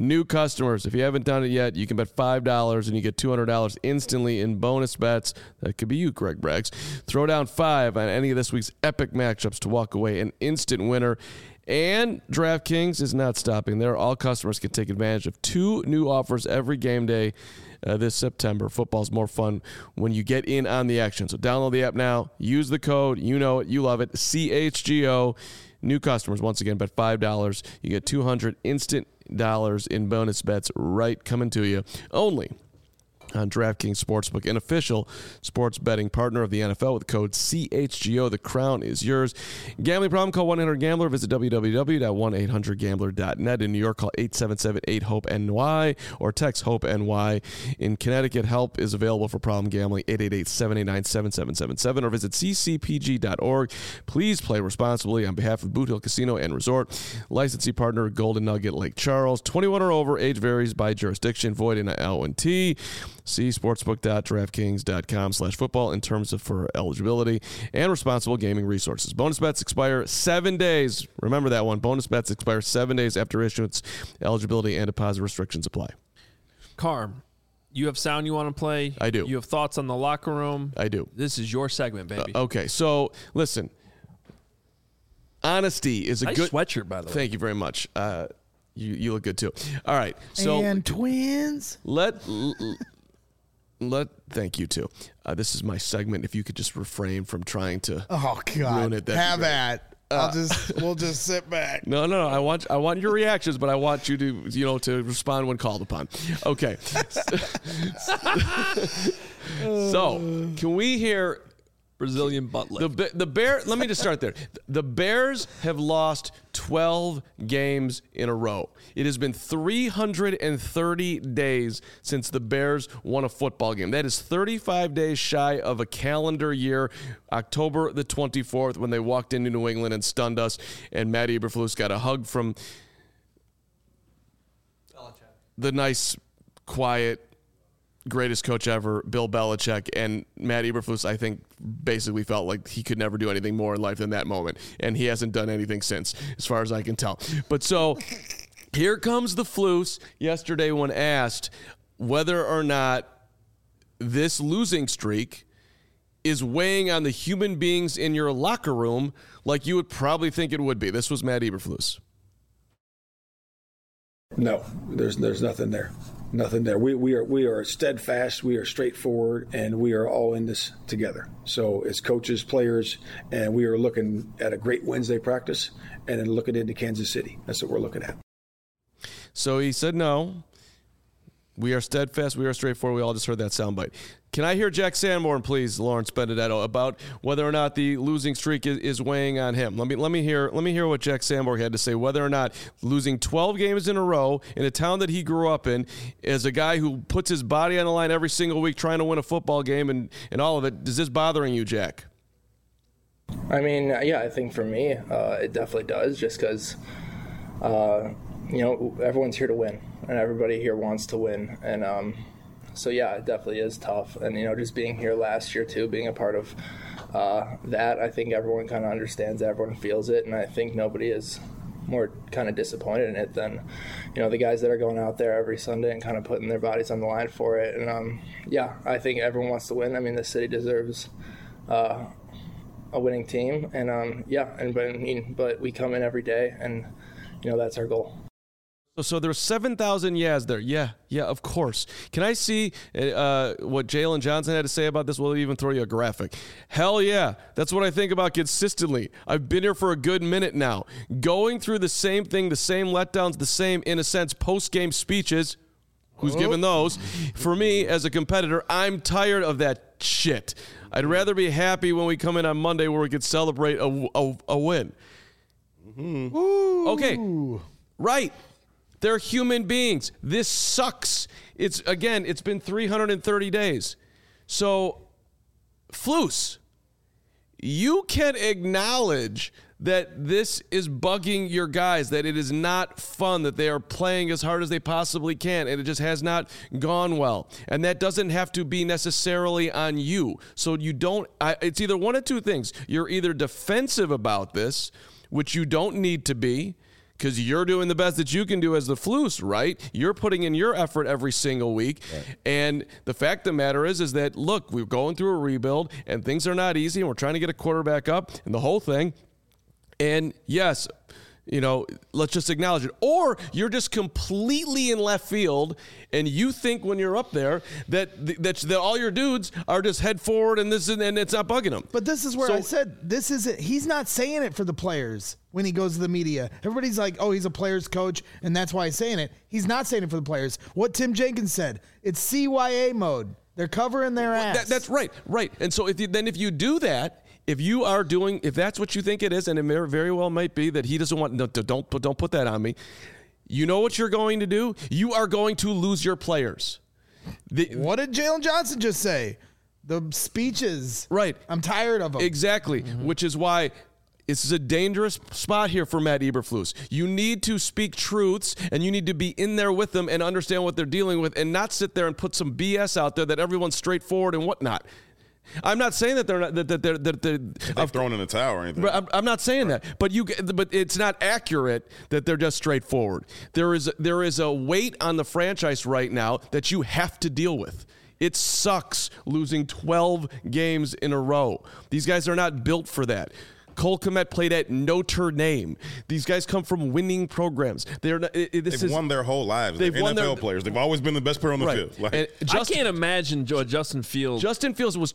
New customers, if you haven't done it yet, you can bet $5 and you get $200 instantly in bonus bets. That could be you, Greg Braggs. Throw down $5 on any of this week's epic matchups to walk away an instant winner. And DraftKings is not stopping there. All customers can take advantage of 2 new offers every game day this September. Football's more fun when you get in on the action. So download the app now. Use the code. You know it. You love it. CHGO. New customers, once again, bet $5. You get $200 instant dollars in bonus bets right coming to you. Only on DraftKings Sportsbook, an official sports betting partner of the NFL with code CHGO. The crown is yours. Gambling problem? Call 1-800-GAMBLER. Visit www.1800gambler.net. In New York, call 877-8-HOPE-NY or text HOPE-NY. In Connecticut, help is available for problem gambling, 888-789-7777 or visit ccpg.org. Please play responsibly on behalf of Boot Hill Casino and Resort. Licensee partner, Golden Nugget Lake Charles. 21 or over. Age varies by jurisdiction. Void in L&T. See sportsbook.draftkings.com/football in terms of for eligibility and responsible gaming resources. Bonus bets expire 7 days. Remember that one. Bonus bets expire 7 days after issuance. Eligibility and deposit restrictions apply. Carm, you have sound you want to play? I do. You have thoughts on the locker room? I do. This is your segment, baby. Okay, so listen. Honesty is a nice good sweatshirt, by the way. Thank you very much. You look good too. All right. So and twins. Thank you too. This is my segment. If you could just refrain from trying to ruin it, have at. We'll just sit back. No. I want your reactions, but I want you to respond when called upon. Okay. So can we hear Brazilian butt lift? The Bear. Let me just start there. The Bears have lost 12 games in a row. It has been 330 days since the Bears won a football game. That is 35 days shy of a calendar year, October the 24th, when they walked into New England and stunned us, and Matt Eberflus got a hug from the nice, quiet, greatest coach ever, Bill Belichick, and Matt Eberflus, I think, basically felt like he could never do anything more in life than that moment, and he hasn't done anything since, as far as I can tell. But so here comes the Flus yesterday when asked whether or not this losing streak is weighing on the human beings in your locker room like you would probably think it would be. This was Matt Eberflus. No, there's nothing there. Nothing there. We are steadfast, we are straightforward, and we are all in this together. So as coaches, players, and we are looking at a great Wednesday practice and then looking into Kansas City. That's what we're looking at. So he said no. We are steadfast, we are straightforward. We all just heard that soundbite. Can I hear Jack Sanborn, please, Lawrence Benedetto, about whether or not the losing streak is weighing on him? Let me hear what Jack Sanborn had to say, whether or not losing 12 games in a row in a town that he grew up in, as a guy who puts his body on the line every single week trying to win a football game and all of it. Is this bothering you, Jack? I mean, yeah, I think for me, it definitely does, just because, everyone's here to win, and everybody here wants to win, and so, yeah, it definitely is tough. And, just being here last year, too, being a part of that, I think everyone kind of understands that, everyone feels it, and I think nobody is more kind of disappointed in it than, the guys that are going out there every Sunday and kind of putting their bodies on the line for it. And, yeah, I think everyone wants to win. I mean, the city deserves a winning team. And, but we come in every day, and, that's our goal. So there's 7,000 yeahs there. Yeah, of course. Can I see what Jalen Johnson had to say about this? We'll even throw you a graphic. Hell yeah. That's what I think about consistently. I've been here for a good minute now. Going through the same thing, the same letdowns, the same, in a sense, post-game speeches. Who's given those? For me, as a competitor, I'm tired of that shit. I'd rather be happy when we come in on Monday where we could celebrate a win. Mm-hmm. Okay. Right. They're human beings. This sucks. It's been 330 days. So, Flus, you can acknowledge that this is bugging your guys, that it is not fun, that they are playing as hard as they possibly can, and it just has not gone well. And that doesn't have to be necessarily on you. So it's either one of two things. You're either defensive about this, which you don't need to be, because you're doing the best that you can do as the Floos, right? You're putting in your effort every single week. Right. And the fact of the matter is that, look, we're going through a rebuild, and things are not easy, and we're trying to get a quarterback up and the whole thing. And, yes, let's just acknowledge it. Or you're just completely in left field, and you think when you're up there that all your dudes are just head forward and it's not bugging them. But this is where I said this isn't. He's not saying it for the players when he goes to the media. Everybody's like, "Oh, he's a players coach, and that's why he's saying it." He's not saying it for the players. What Tim Jenkins said, it's CYA mode. They're covering their ass. That's right. And so if you do that. If that's what you think it is, and it very well might be that he doesn't want, don't put that on me. You know what you're going to do? You are going to lose your players. What did Jalen Johnson just say? The speeches. Right. I'm tired of them. Exactly. Mm-hmm. Which is why this is a dangerous spot here for Matt Eberflus. You need to speak truths, and you need to be in there with them and understand what they're dealing with, and not sit there and put some BS out there that everyone's straightforward and whatnot. I'm not saying that they're not they're thrown in the towel or anything. I'm not saying that, but it's not accurate that they're just straightforward. There is a weight on the franchise right now that you have to deal with. It sucks losing 12 games in a row. These guys are not built for that. Cole Kmet played at Notre Dame. These guys come from winning programs. They've won their whole lives. They're NFL players. They've always been the best player on the field. I can't imagine Justin Fields. Justin Fields was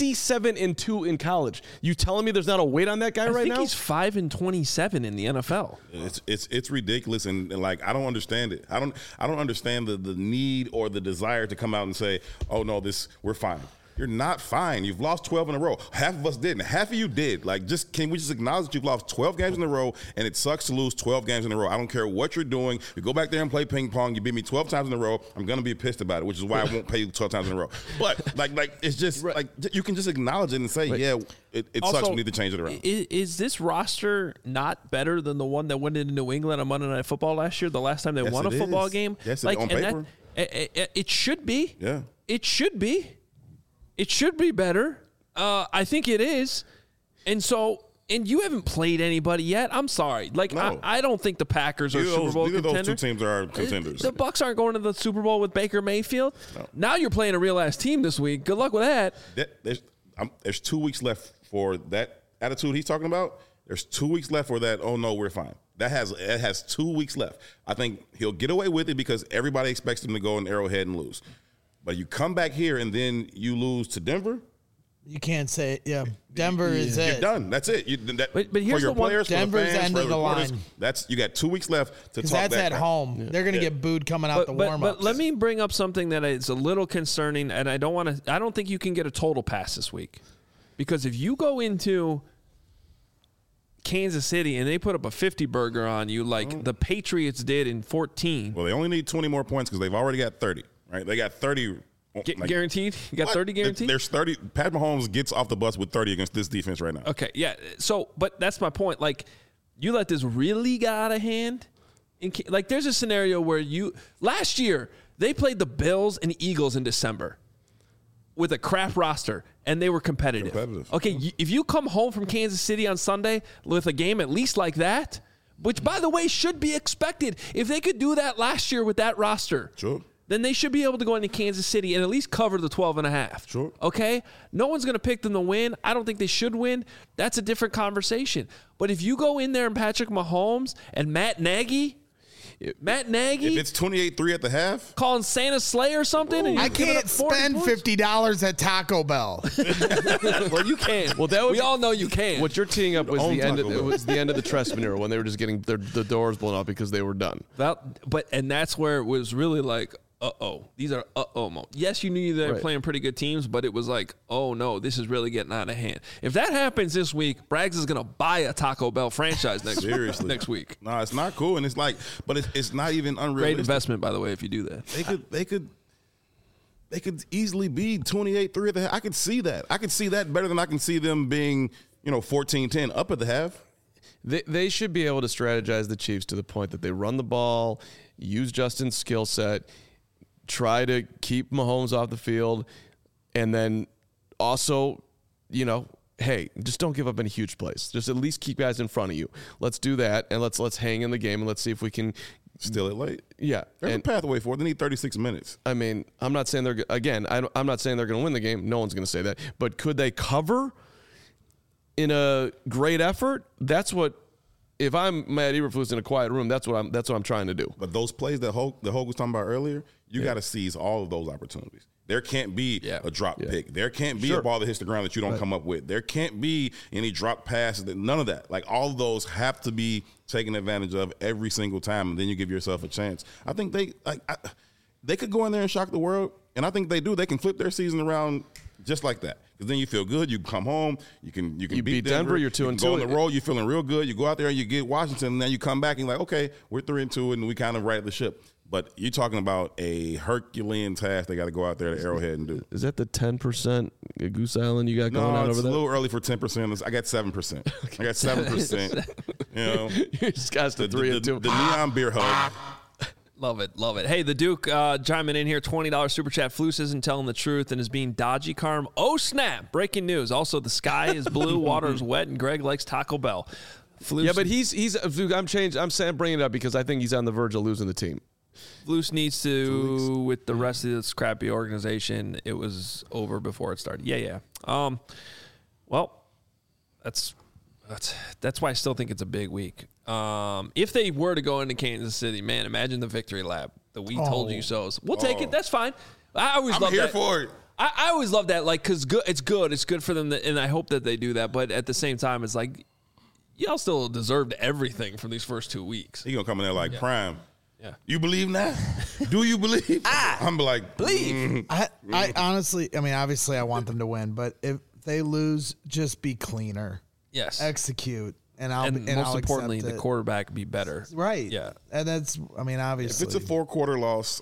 27-2 in college. You telling me there's not a weight on that guy right now? I think he's 5-27 in the NFL. It's ridiculous, and like I don't understand it. I don't understand the need or the desire to come out and say, "Oh no, we're fine." You're not fine. You've lost 12 in a row. Half of us didn't. Half of you did. Can we just acknowledge that you've lost 12 games in a row, and it sucks to lose 12 games in a row? I don't care what you're doing. You go back there and play ping pong. You beat me 12 times in a row. I'm gonna be pissed about it, which is why I won't pay you 12 times in a row. But it's just you can just acknowledge it and say, yeah, it also sucks. We need to change it around. Is this roster not better than the one that went into New England on Monday Night Football last year? The last time they won a football game. Yes, on paper. It should be. Yeah. It should be. It should be better. I think it is. And you haven't played anybody yet. I'm sorry. No. I don't think the Packers are Super Bowl contenders. Those two teams are contenders. The Bucs aren't going to the Super Bowl with Baker Mayfield. No. Now you're playing a real-ass team this week. Good luck with that. There's 2 weeks left for that attitude he's talking about. There's 2 weeks left for that, oh, no, we're fine. It has 2 weeks left. I think he'll get away with it because everybody expects him to go in Arrowhead and lose. But you come back here and then you lose to Denver. You can't say it. Yeah, Denver is it. You're done. That's it. But here's for your players, Denver's for the fans, end of the line. You got 2 weeks left to talk. Because that's at home. Yeah. They're going to get booed coming out the warm-ups. But let me bring up something that is a little concerning, and I don't think you can get a total pass this week, because if you go into Kansas City and they put up a 50 burger on you like the Patriots did in 14. Well, they only need 20 more points because they've already got 30. Right, they got 30 guaranteed. You got 30 guaranteed. There's 30. Pat Mahomes gets off the bus with 30 against this defense right now. Okay, yeah. So, but that's my point. You let this really get out of hand. There's a scenario where last year they played the Bills and Eagles in December with a crap roster, and they were competitive. Okay, if you come home from Kansas City on Sunday with a game at least like that, which by the way should be expected, if they could do that last year with that roster, sure, then they should be able to go into Kansas City and at least cover the 12.5. Sure. Okay? No one's going to pick them to win. I don't think they should win. That's a different conversation. But if you go in there and Patrick Mahomes and Matt Nagy, if it's 28-3 at the half, calling Santa Slay or something, and I can't spend $50 at Taco Bell. Well, you can. Well, we all know you can. What you're teeing up was the end of the Trestman era when they were just getting the doors blown off because they were done. And that's where it was really like, these are moments. Yes, you knew they were playing pretty good teams, but it was like, oh no, this is really getting out of hand. If that happens this week, Braggs is going to buy a Taco Bell franchise next week. No, it's not cool, and but it's not even unrealistic. Great investment, by the way, if you do that. They could easily be 28-3 at the half. I could see that. I could see that better than I can see them being, 14-10 up at the half. They should be able to strategize the Chiefs to the point that they run the ball, use Justin's skill set, try to keep Mahomes off the field, and then also, hey, just don't give up any huge plays. Just at least keep guys in front of you. Let's do that, and let's hang in the game, and let's see if we can Still it late. Yeah, there's a pathway for it. They need 36 minutes. I mean, I'm not saying I'm not saying they're going to win the game. No one's going to say that. But could they cover in a great effort? That's what. If I'm Matt Eberflus in a quiet room, that's what I'm trying to do. But those plays that Hogue was talking about earlier, you got to seize all of those opportunities. There can't be a drop pick. There can't be a ball that hits the ground that you don't come up with. There can't be any drop passes. None of that. Like, all of those have to be taken advantage of every single time, and then you give yourself a chance. I think they could go in there and shock the world, and I think they do. They can flip their season around just like that. Because then you feel good. You come home. You can beat Denver. You're 2-2. Go on the road. You're feeling real good. You go out there and you get Washington, and then you come back and you're like, okay, we're 3-2, and we kind of right the ship. But you're talking about a Herculean task they got to go out there to Arrowhead and do. Is that the 10% Goose Island you got going on over there? No, it's a little early for 10%. I got 7%. I got 7%. You know, you just got the 3-2. The neon beer hug. Love it, love it. Hey, the Duke chiming in here, $20 super chat. Flus isn't telling the truth and is being dodgy, Carm. Oh, snap. Breaking news. Also, the sky is blue, water is wet, and Greg likes Taco Bell. Flus, yeah, but he's I'm saying bringing it up because I think he's on the verge of losing the team. Flus needs to, with the rest of this crappy organization, it was over before it started. Yeah. Well, that's why I still think it's a big week. If they were to go into Kansas City, man, imagine the victory lap. The we told you so's. We'll take it. That's fine. I always love that. I'm here for it. I always love that, like, because it's good. It's good for them, and I hope that they do that. But at the same time, it's like, y'all still deserved everything from these first 2 weeks. He gonna come in there like Prime. Yeah. You believe now? Do you believe? I'm like, believe. I honestly, I mean, obviously I want them to win, but if they lose, just be cleaner. Yes. Execute. And most I'll importantly, the quarterback be better. Right. Yeah. And that's, I mean, obviously. If it's a 4-quarter loss,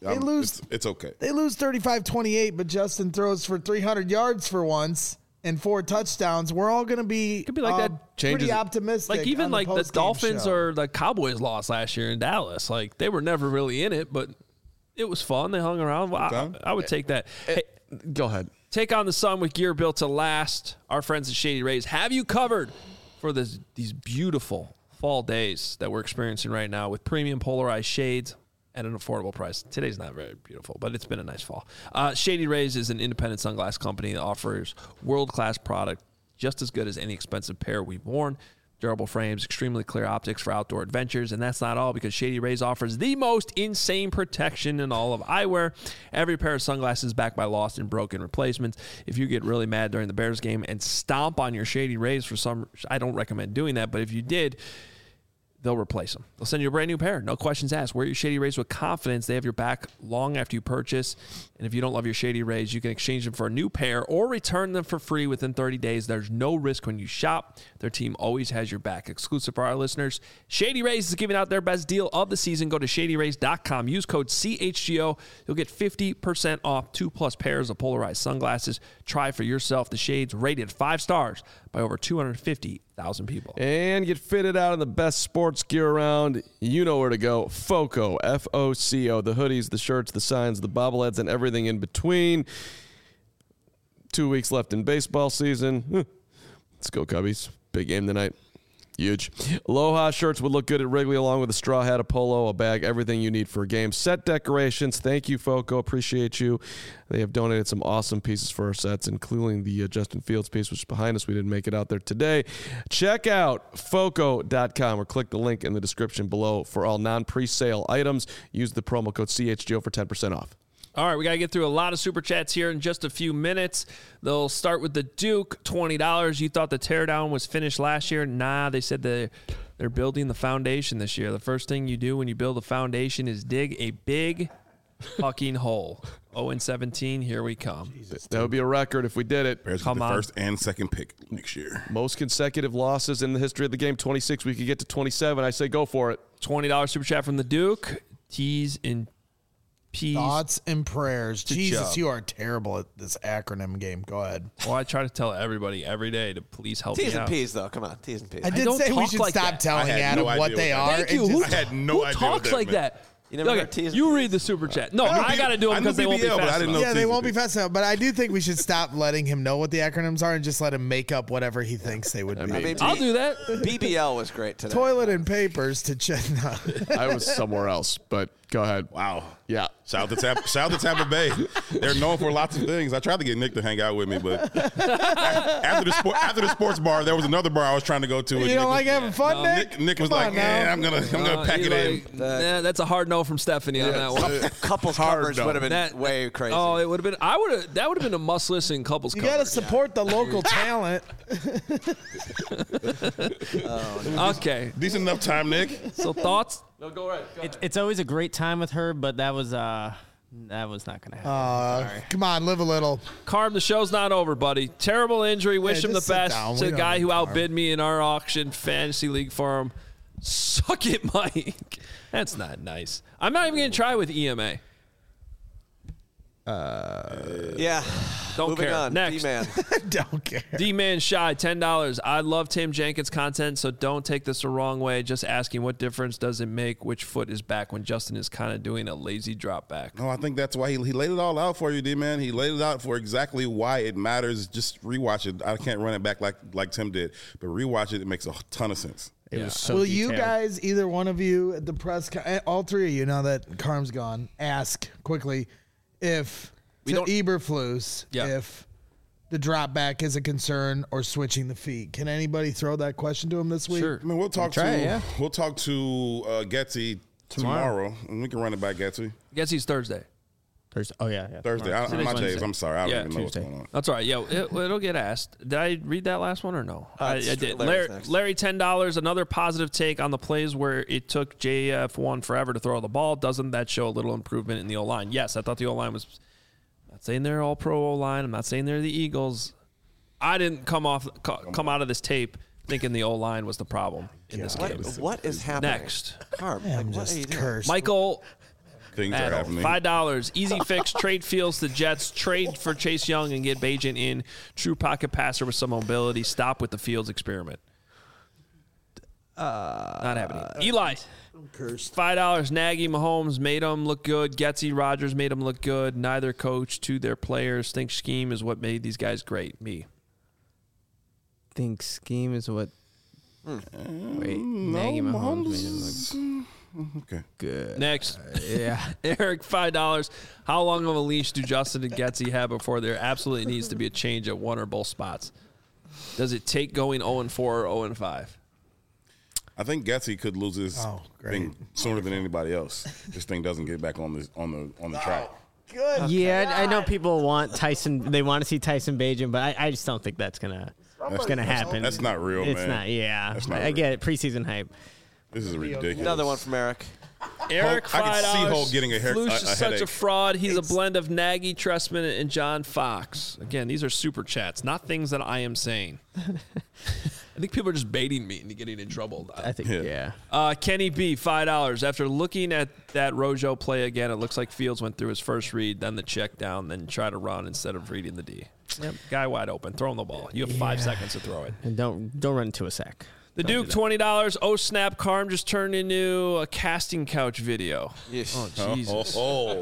it's okay. They lose 35-28, but Justin throws for 300 yards for once and 4 touchdowns. We're all going to be, could be like that. Pretty optimistic. Like, even like the Dolphins show. or the Cowboys lost last year in Dallas. Like, they were never really in it, but it was fun. They hung around. I would take that. Hey, go ahead. Take on the sun with gear built to last. Our friends at Shady Rays have you covered for these beautiful fall days that we're experiencing right now with premium polarized shades at an affordable price. Today's not very beautiful, but it's been a nice fall. Shady Rays is an independent sunglass company that offers world-class product just as good as any expensive pair we've worn. Durable frames, extremely clear optics for outdoor adventures, and that's not all because Shady Rays offers the most insane protection in all of eyewear. Every pair of sunglasses is backed by lost and broken replacements. If you get really mad during the Bears game and stomp on your Shady Rays I don't recommend doing that, but if you did, they'll replace them. They'll send you a brand new pair. No questions asked. Wear your Shady Rays with confidence. They have your back long after you purchase. And if you don't love your Shady Rays, you can exchange them for a new pair or return them for free within 30 days. There's no risk when you shop. Their team always has your back. Exclusive for our listeners, Shady Rays is giving out their best deal of the season. Go to shadyrays.com. Use code CHGO. You'll get 50% off 2+ pairs of polarized sunglasses. Try for yourself the shades rated 5 stars by over 250,000 people. And get fitted out in the best sports gear around. You know where to go. FOCO, F-O-C-O. The hoodies, the shirts, the signs, the bobbleheads, and everything in between. 2 weeks left in baseball season. Let's go, Cubbies. Big game tonight. Huge. Aloha shirts would look good at Wrigley along with a straw hat, a polo, a bag, everything you need for a game. Set decorations. Thank you, FOCO. Appreciate you. They have donated some awesome pieces for our sets, including the Justin Fields piece, which is behind us. We didn't make it out there today. Check out FOCO.com or click the link in the description below for all non-presale items. Use the promo code CHGO for 10% off. All right, we got to get through a lot of super chats here in just a few minutes. They'll start with the Duke, $20. You thought the teardown was finished last year? Nah, they said they're building the foundation this year. The first thing you do when you build a foundation is dig a big fucking hole. 0-17, here we come. Jesus, that would be a record if we did it. Bears with the first and second pick next year. Most consecutive losses in the history of the game, 26. We could get to 27. I say go for it. $20 super chat from the Duke. T's and P's. Thoughts and prayers. Jesus, Chubb. you are terrible at this acronym game. Go ahead. Well, I try to tell everybody every day to please help me out. T's and P's, though. Come on, T's and P's. I did say we should stop telling Adam what they are. Thank you. I had no idea. Who talks like that? You never Okay, heard T's and you C's? read the super chat. No, I got to do them I knew because they won't be BBL, but I fast didn't enough. know Yeah, they T's won't be and fast enough. But I do think we should stop letting him know what the acronyms are and just let him make up whatever he thinks they would be. I mean, I'll do that. BBL was great today. Toilet and papers to check. No. I was somewhere else, but go ahead. Wow. Yeah. Shout out to Tampa Bay. They're known for lots of things. I tried to get Nick to hang out with me, but after the sports bar, there was another bar I was trying to go to. You don't like having fun, Nick? Nick was Come like, on now. I'm gonna pack it in. Nah, that's a hard no from Stephanie on that one. Couples coverage would have been way crazy. Oh, it would have been. That would have been a must listen couples. You got to coverage. support the local talent. Okay. Decent enough time, Nick. So thoughts? No, go right. It's always a great time with her, but that was not going to happen. Sorry. Come on, live a little. Carm, the show's not over, buddy. Terrible injury. Wish him the just sit best. down. To We the don't guy need who Carm. outbid me in our auction fantasy league farm. Suck it, Mike. That's not nice. I'm not even going to try with EMA. Yeah. Don't Moving care. on. Next. D-man. Don't care. D-Man Shy, $10. I love Tim Jenkins' content, so don't take this the wrong way. Just asking what difference does it make which foot is back when Justin is kind of doing a lazy drop back. No, I think that's why he laid it all out for you, D-Man. He laid it out for exactly why it matters. Just rewatch it. I can't run it back like Tim did, but rewatch it. It makes a ton of sense. It was so Will you detailed. guys, either one of you at the press, all three of you, now that Carm's gone, ask quickly if We to don't- Eberflus, Yeah. if the drop back is a concern or switching the feet. Can anybody throw that question to him this week? Sure. I mean, we'll talk Try it, yeah. to Getsy tomorrow, and we can run it by Getsy Guess he's Thursday. Thursday. Oh yeah. Thursday. Tomorrow. My Today's days. Wednesday. I'm sorry. I don't Yeah, even know Tuesday. what's going on. That's all right. Yeah, it'll get asked. Did I read that last one or no? I it's did. Larry's next. Larry, $10. Another positive take on the plays where it took JF1 forever to throw the ball. Doesn't that show a little improvement in the O-line? Yes, I thought the O-line was. I'm not saying they're all pro O-line. I'm not saying they're the Eagles. I didn't come out of this tape thinking the O-line was the problem in this game. What is happening? Next, Carm, I'm what are you just doing? cursed. Michael. Things are happening. $5. Easy fix. Trade Fields to Jets. Trade for Chase Young and get Bagent in. True pocket passer with some mobility. Stop with the Fields experiment. Not happening. Eli. $5. Nagy, Mahomes made them look good. Getsy, Rodgers made them look good. Neither coach to their players think scheme is what made these guys great. Me. Think scheme is what. Wait, Nagy Mahomes made him look Okay. good. Next. Yeah. Eric, $5. How long of a leash do Justin and Getsy have before there absolutely needs to be a change at one or both spots? Does it take going 0-4 or 0-5? I think Getsy could lose his great. thing sooner than anybody else. This thing doesn't get back on the track. Yeah, I know people want Tyson. They want to see Tyson Bagent, but I just don't think that's gonna happen. That's not real, It's man. not. Yeah, That's not I real. get it. Preseason hype. This is ridiculous. Another one from Eric. Eric, Hulk- I $5. could see Hulk getting a Flush is such a headache. fraud. He's a blend of Nagy, Tressman, and John Fox. Again, these are super chats, not things that I am saying. I think people are just baiting me into getting in trouble. I think. Yeah. Kenny B, $5. After looking at that Rojo play again, it looks like Fields went through his first read, then the check down, then try to run instead of reading the D. Yep. Guy wide open, throwing the ball. You have 5 seconds to throw it. And don't run into a sack. The Duke, $20. Oh, snap. Carm just turned into a casting couch video. Yes. Oh, Jesus.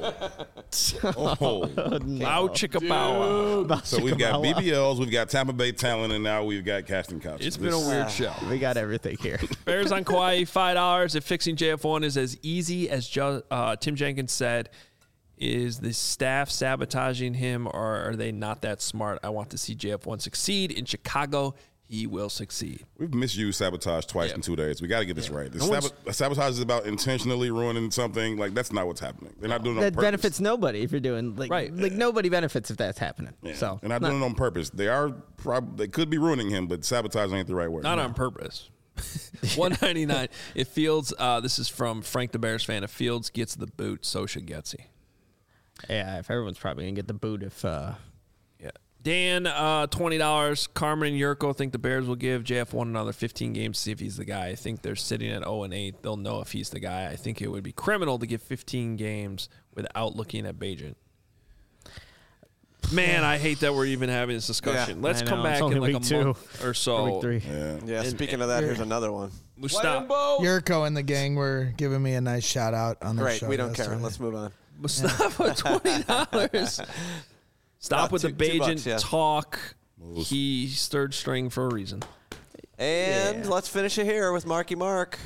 Loud chicka bow wow. So we've got BBLs, we've got Tampa Bay talent, and now we've got casting couches. It's been a weird show. We got everything here. Bears on Kauai, $5. If fixing JF1 is as easy as Tim Jenkins said, is the staff sabotaging him, or are they not that smart? I want to see JF1 succeed. In Chicago, he will succeed. We've misused sabotage twice in 2 days. We got to get this right. Sabotage is about intentionally ruining something. Like, that's not what's happening. They're not doing it on That purpose. benefits nobody if you're doing like nobody benefits if that's happening. Yeah. So they're not doing it on purpose. They could be ruining him, but sabotage ain't the right word. Not on purpose. $199. If Fields, this is from Frank the Bears fan, if Fields gets the boot, so should Getsy. Yeah, if everyone's probably gonna get the boot if Yeah. Dan, $20. Carmen and Yurko think the Bears will give JF1 another 15 games to see if he's the guy. I think they're sitting at 0-8. They'll know if he's the guy. I think it would be criminal to give 15 games without looking at Bagent. Man, I hate that we're even having this discussion. Yeah. Let's I come know. back It's in only like a week 2. month or so. Week 3. Yeah, speaking of that, here's another one. Mustafa, Yurko and the gang were giving me a nice shout out on the Great, show. we don't care. yesterday. Let's move on. Mustafa, $20. Stop with the Bajan talk. He's third string for a reason. And let's finish it here with Marky Mark.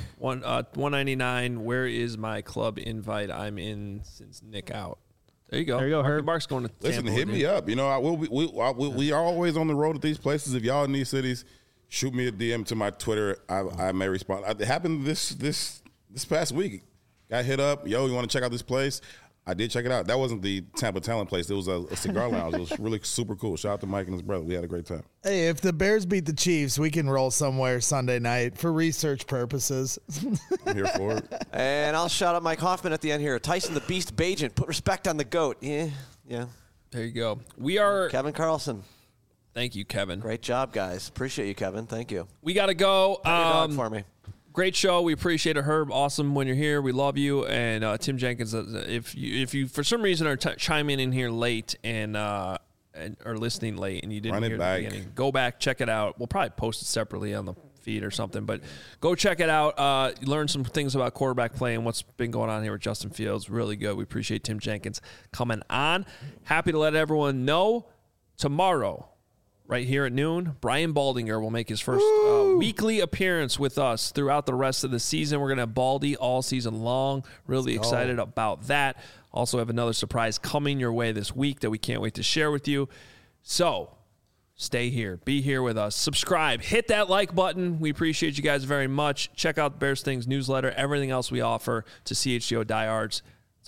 $199. Where is my club invite? I'm in since Nick out. There you go. There you go, Marky Herb. Mark's going to Listen, Tampa hit with me you. up. You know, we are always on the road at these places. If y'all in these cities, shoot me a DM to my Twitter. I may respond. It happened this past week. Got hit up. Yo, you want to check out this place? I did check it out. That wasn't the Tampa Talent place. It was a cigar lounge. It was really super cool. Shout out to Mike and his brother. We had a great time. Hey, if the Bears beat the Chiefs, we can roll somewhere Sunday night for research purposes. I'm here for it. And I'll shout out Mike Hoffman at the end here. Tyson the Beast Bajan. Put respect on the GOAT. Yeah. There you go. We are. Kevin Carlson. Thank you, Kevin. Great job, guys. Appreciate you, Kevin. Thank you. We got to go. Pet your dog for me. Great show. We appreciate it, Herb. Awesome when you're here. We love you. And Tim Jenkins, if you for some reason are chiming in here late and are listening late and you didn't hear the beginning, go back, check it out. We'll probably post it separately on the feed or something, but go check it out. Learn some things about quarterback play and what's been going on here with Justin Fields. Really good. We appreciate Tim Jenkins coming on. Happy to let everyone know tomorrow, right here at noon, Brian Baldinger will make his first weekly appearance with us throughout the rest of the season. We're going to have Baldy all season long. Really excited about that. Also have another surprise coming your way this week that we can't wait to share with you. So stay here. Be here with us. Subscribe. Hit that like button. We appreciate you guys very much. Check out the Bears Things newsletter. Everything else we offer to CHGO Diehards. It's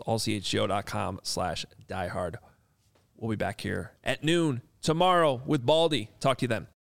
allchgo.com/diehard. We'll be back here at noon tomorrow with Baldy. Talk to you then.